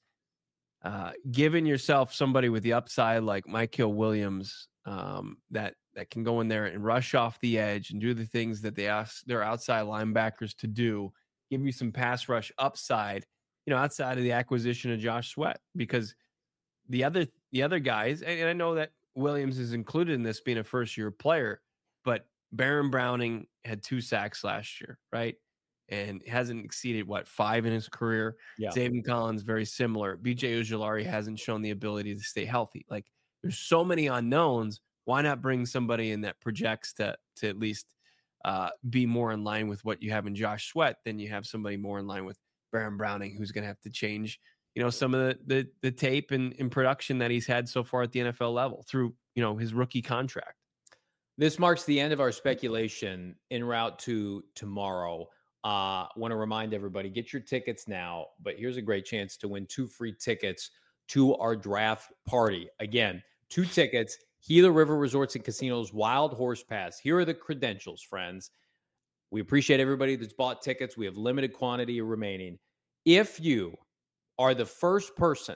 uh, giving yourself somebody with the upside like Mykel Williams um, that that can go in there and rush off the edge and do the things that they ask their outside linebackers to do. Give you some pass rush upside, you know, outside of the acquisition of Josh Sweat, because the other the other guys, and I know that Williams is included in this being a first year player, but Baron Browning had two sacks last year, right? And hasn't exceeded what, five in his career. Yeah. Zaven Collins, very similar. B J Ojulari hasn't shown the ability to stay healthy. Like, there's so many unknowns. Why not bring somebody in that projects to to at least uh, be more in line with what you have in Josh Sweat than you have somebody more in line with Baron Browning, who's going to have to change, you know, some of the the, the tape and, and production that he's had so far at the N F L level through, you know, his rookie contract. This marks the end of our speculation en route to tomorrow. Uh, want to remind everybody, get your tickets now, but here's a great chance to win two free tickets to our draft party. Again, two tickets, Gila River Resorts and Casinos Wild Horse Pass. Here are the credentials, friends. We appreciate everybody that's bought tickets. We have limited quantity remaining. If you are the first person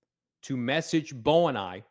to message Bo and I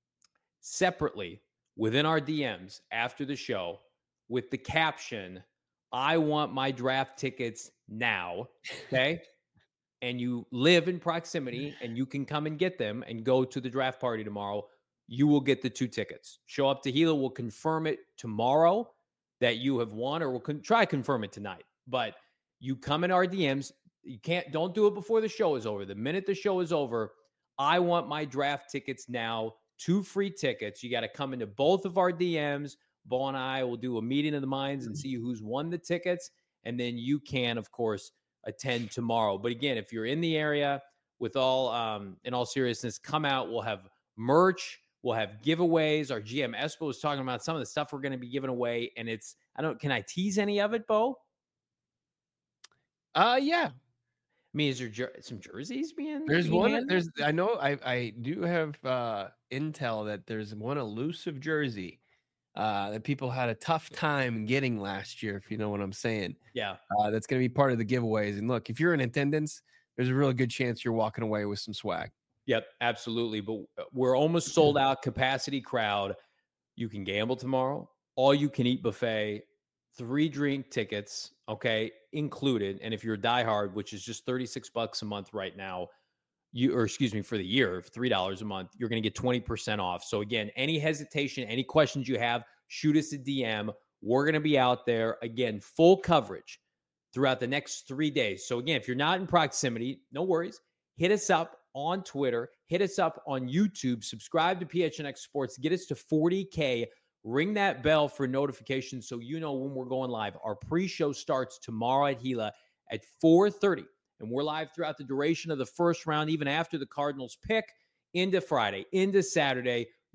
separately within our D Ms after the show with the caption, I want my draft tickets now, okay? And you live in proximity and you can come and get them and go to the draft party tomorrow, you will get the two tickets. Show up to Gila. We'll confirm it tomorrow that you have won, or we'll con- try to confirm it tonight. But you come in our D Ms. You can't, don't do it before the show is over. The minute the show is over, I want my draft tickets now. Two free tickets. You got to come into both of our D Ms. Bo and I will do a meeting of the minds and see who's won the tickets. And then you can, of course, attend tomorrow. But again, if you're in the area, with all, um, in all seriousness, come out. We'll have merch. We'll have giveaways. Our G M Espo was talking about some of the stuff we're going to be giving away. And it's, I don't, can I tease any of it, Bo? Uh, yeah. I mean, is there jer- some jerseys being? There's being one. handed? There's. I know. I I do have uh, intel that there's one elusive jersey uh, that people had a tough time getting last year. If you know what I'm saying. Yeah. Uh, that's going to be part of the giveaways. And look, if you're in attendance, there's a really good chance you're walking away with some swag. Yep, absolutely. But we're almost sold out, capacity crowd. You can gamble tomorrow. All you can eat buffet, three drink tickets, okay, included. And if you're a diehard, which is just thirty-six bucks a month right now, you or excuse me, for the year, three dollars a month, you're going to get twenty percent off. So again, any hesitation, any questions you have, shoot us a D M. We're going to be out there again, full coverage throughout the next three days. So again, if you're not in proximity, no worries. Hit us up on Twitter, hit us up on YouTube, subscribe to P H N X Sports, get us to forty K, ring that bell for notifications so you know when we're going live. Our pre-show starts tomorrow at Gila at four thirty, and we're live throughout the duration of the first round, even after the Cardinals pick, into Friday, into Saturday.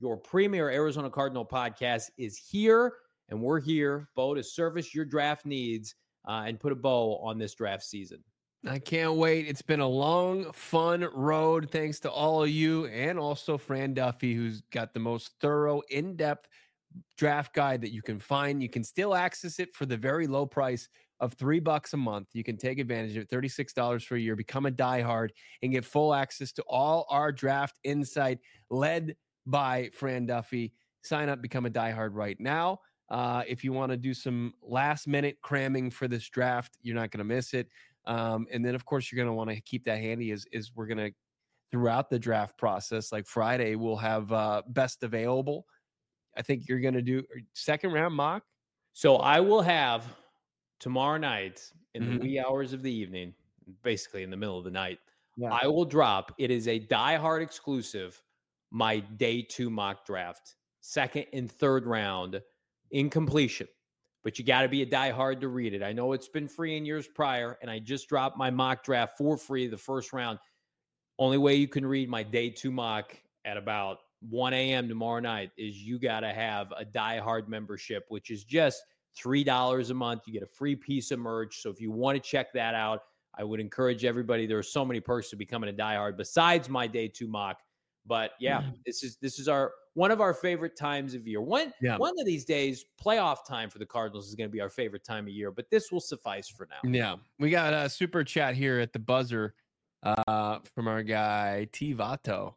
your premier Arizona Cardinal podcast, is here, and we're here, Bo, to service your draft needs uh, and put a bow on this draft season. I can't wait. It's been a long, fun road. Thanks to all of you, and also Fran Duffy, who's got the most thorough, in-depth draft guide that you can find. You can still access it for the very low price of three bucks a month. You can take advantage of it, thirty-six dollars for a year, become a diehard, and get full access to all our draft insight led by Fran Duffy. Sign up, become a diehard right now. Uh, if you want to do some last minute cramming for this draft, you're not going to miss it. Um, and then, of course, you're going to want to keep that handy as, as we're going to, throughout the draft process, like Friday, we'll have uh, best available. I think you're going to do second round mock. So I will have tomorrow night in Mhm. the wee hours of the evening, basically in the middle of the night, Yeah. I will drop, it is a diehard exclusive, my day two mock draft, second and third round in completion. But you got to be a diehard to read it. I know it's been free in years prior, and I just dropped my mock draft for free the first round. Only way you can read my day two mock at about one a.m. tomorrow night is you got to have a diehard membership, which is just three dollars a month. You get a free piece of merch. So if you want to check that out, I would encourage everybody. There are so many perks to becoming a diehard besides my day two mock. But yeah, this is this is our one of our favorite times of year. One Yeah. one of these days, playoff time for the Cardinals is going to be our favorite time of year. But this will suffice for now. Yeah. We got a super chat here at the buzzer uh, from our guy T Vato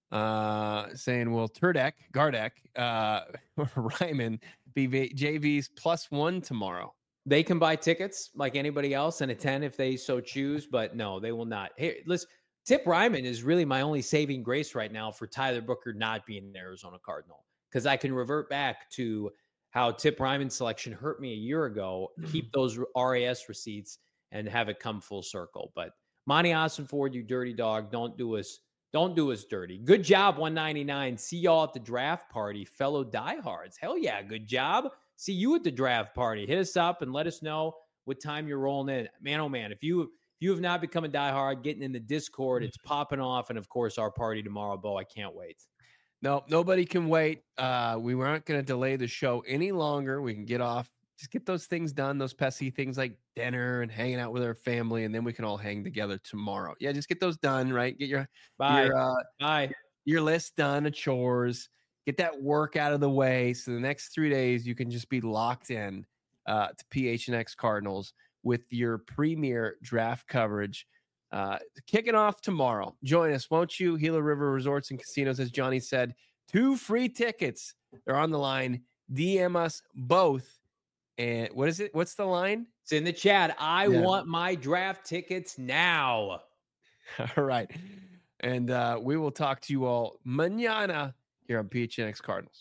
uh, saying, will Turdek, Gardek, uh, Ryman be v- J V's plus one tomorrow? They can buy tickets like anybody else and attend if they so choose, but no, they will not. Hey, listen, Tip Ryman is really my only saving grace right now for Tyler Booker not being an Arizona Cardinal, because I can revert back to how Tip Ryman's selection hurt me a year ago, keep those R A S receipts, and have it come full circle. But Monty Ossenford, you dirty dog, don't do us, don't do us dirty. Good job, one ninety-nine. See y'all at the draft party, fellow diehards. Hell yeah, good job. See you at the draft party. Hit us up and let us know what time you're rolling in. Man, oh man, if you if you have not become a diehard, getting in the Discord, it's popping off. And of course, our party tomorrow, Bo. I can't wait. No, nobody can wait. Uh, we weren't going to delay the show any longer. We can get off, just get those things done, those pesky things like dinner and hanging out with our family, and then we can all hang together tomorrow. Yeah, just get those done, right? Get your Bye. your uh, Bye. your list done of chores. Get that work out of the way. So the next three days you can just be locked in uh, to P H N X Cardinals with your premier draft coverage. Uh, kicking off tomorrow. Join us, won't you? Gila River Resorts and Casinos, as Johnny said, two free tickets. They're on the line. D M us both. And what is it? What's the line? It's in the chat. I Yeah. want my draft tickets now. All right. And uh, we will talk to you all mañana here on P H N X Cardinals.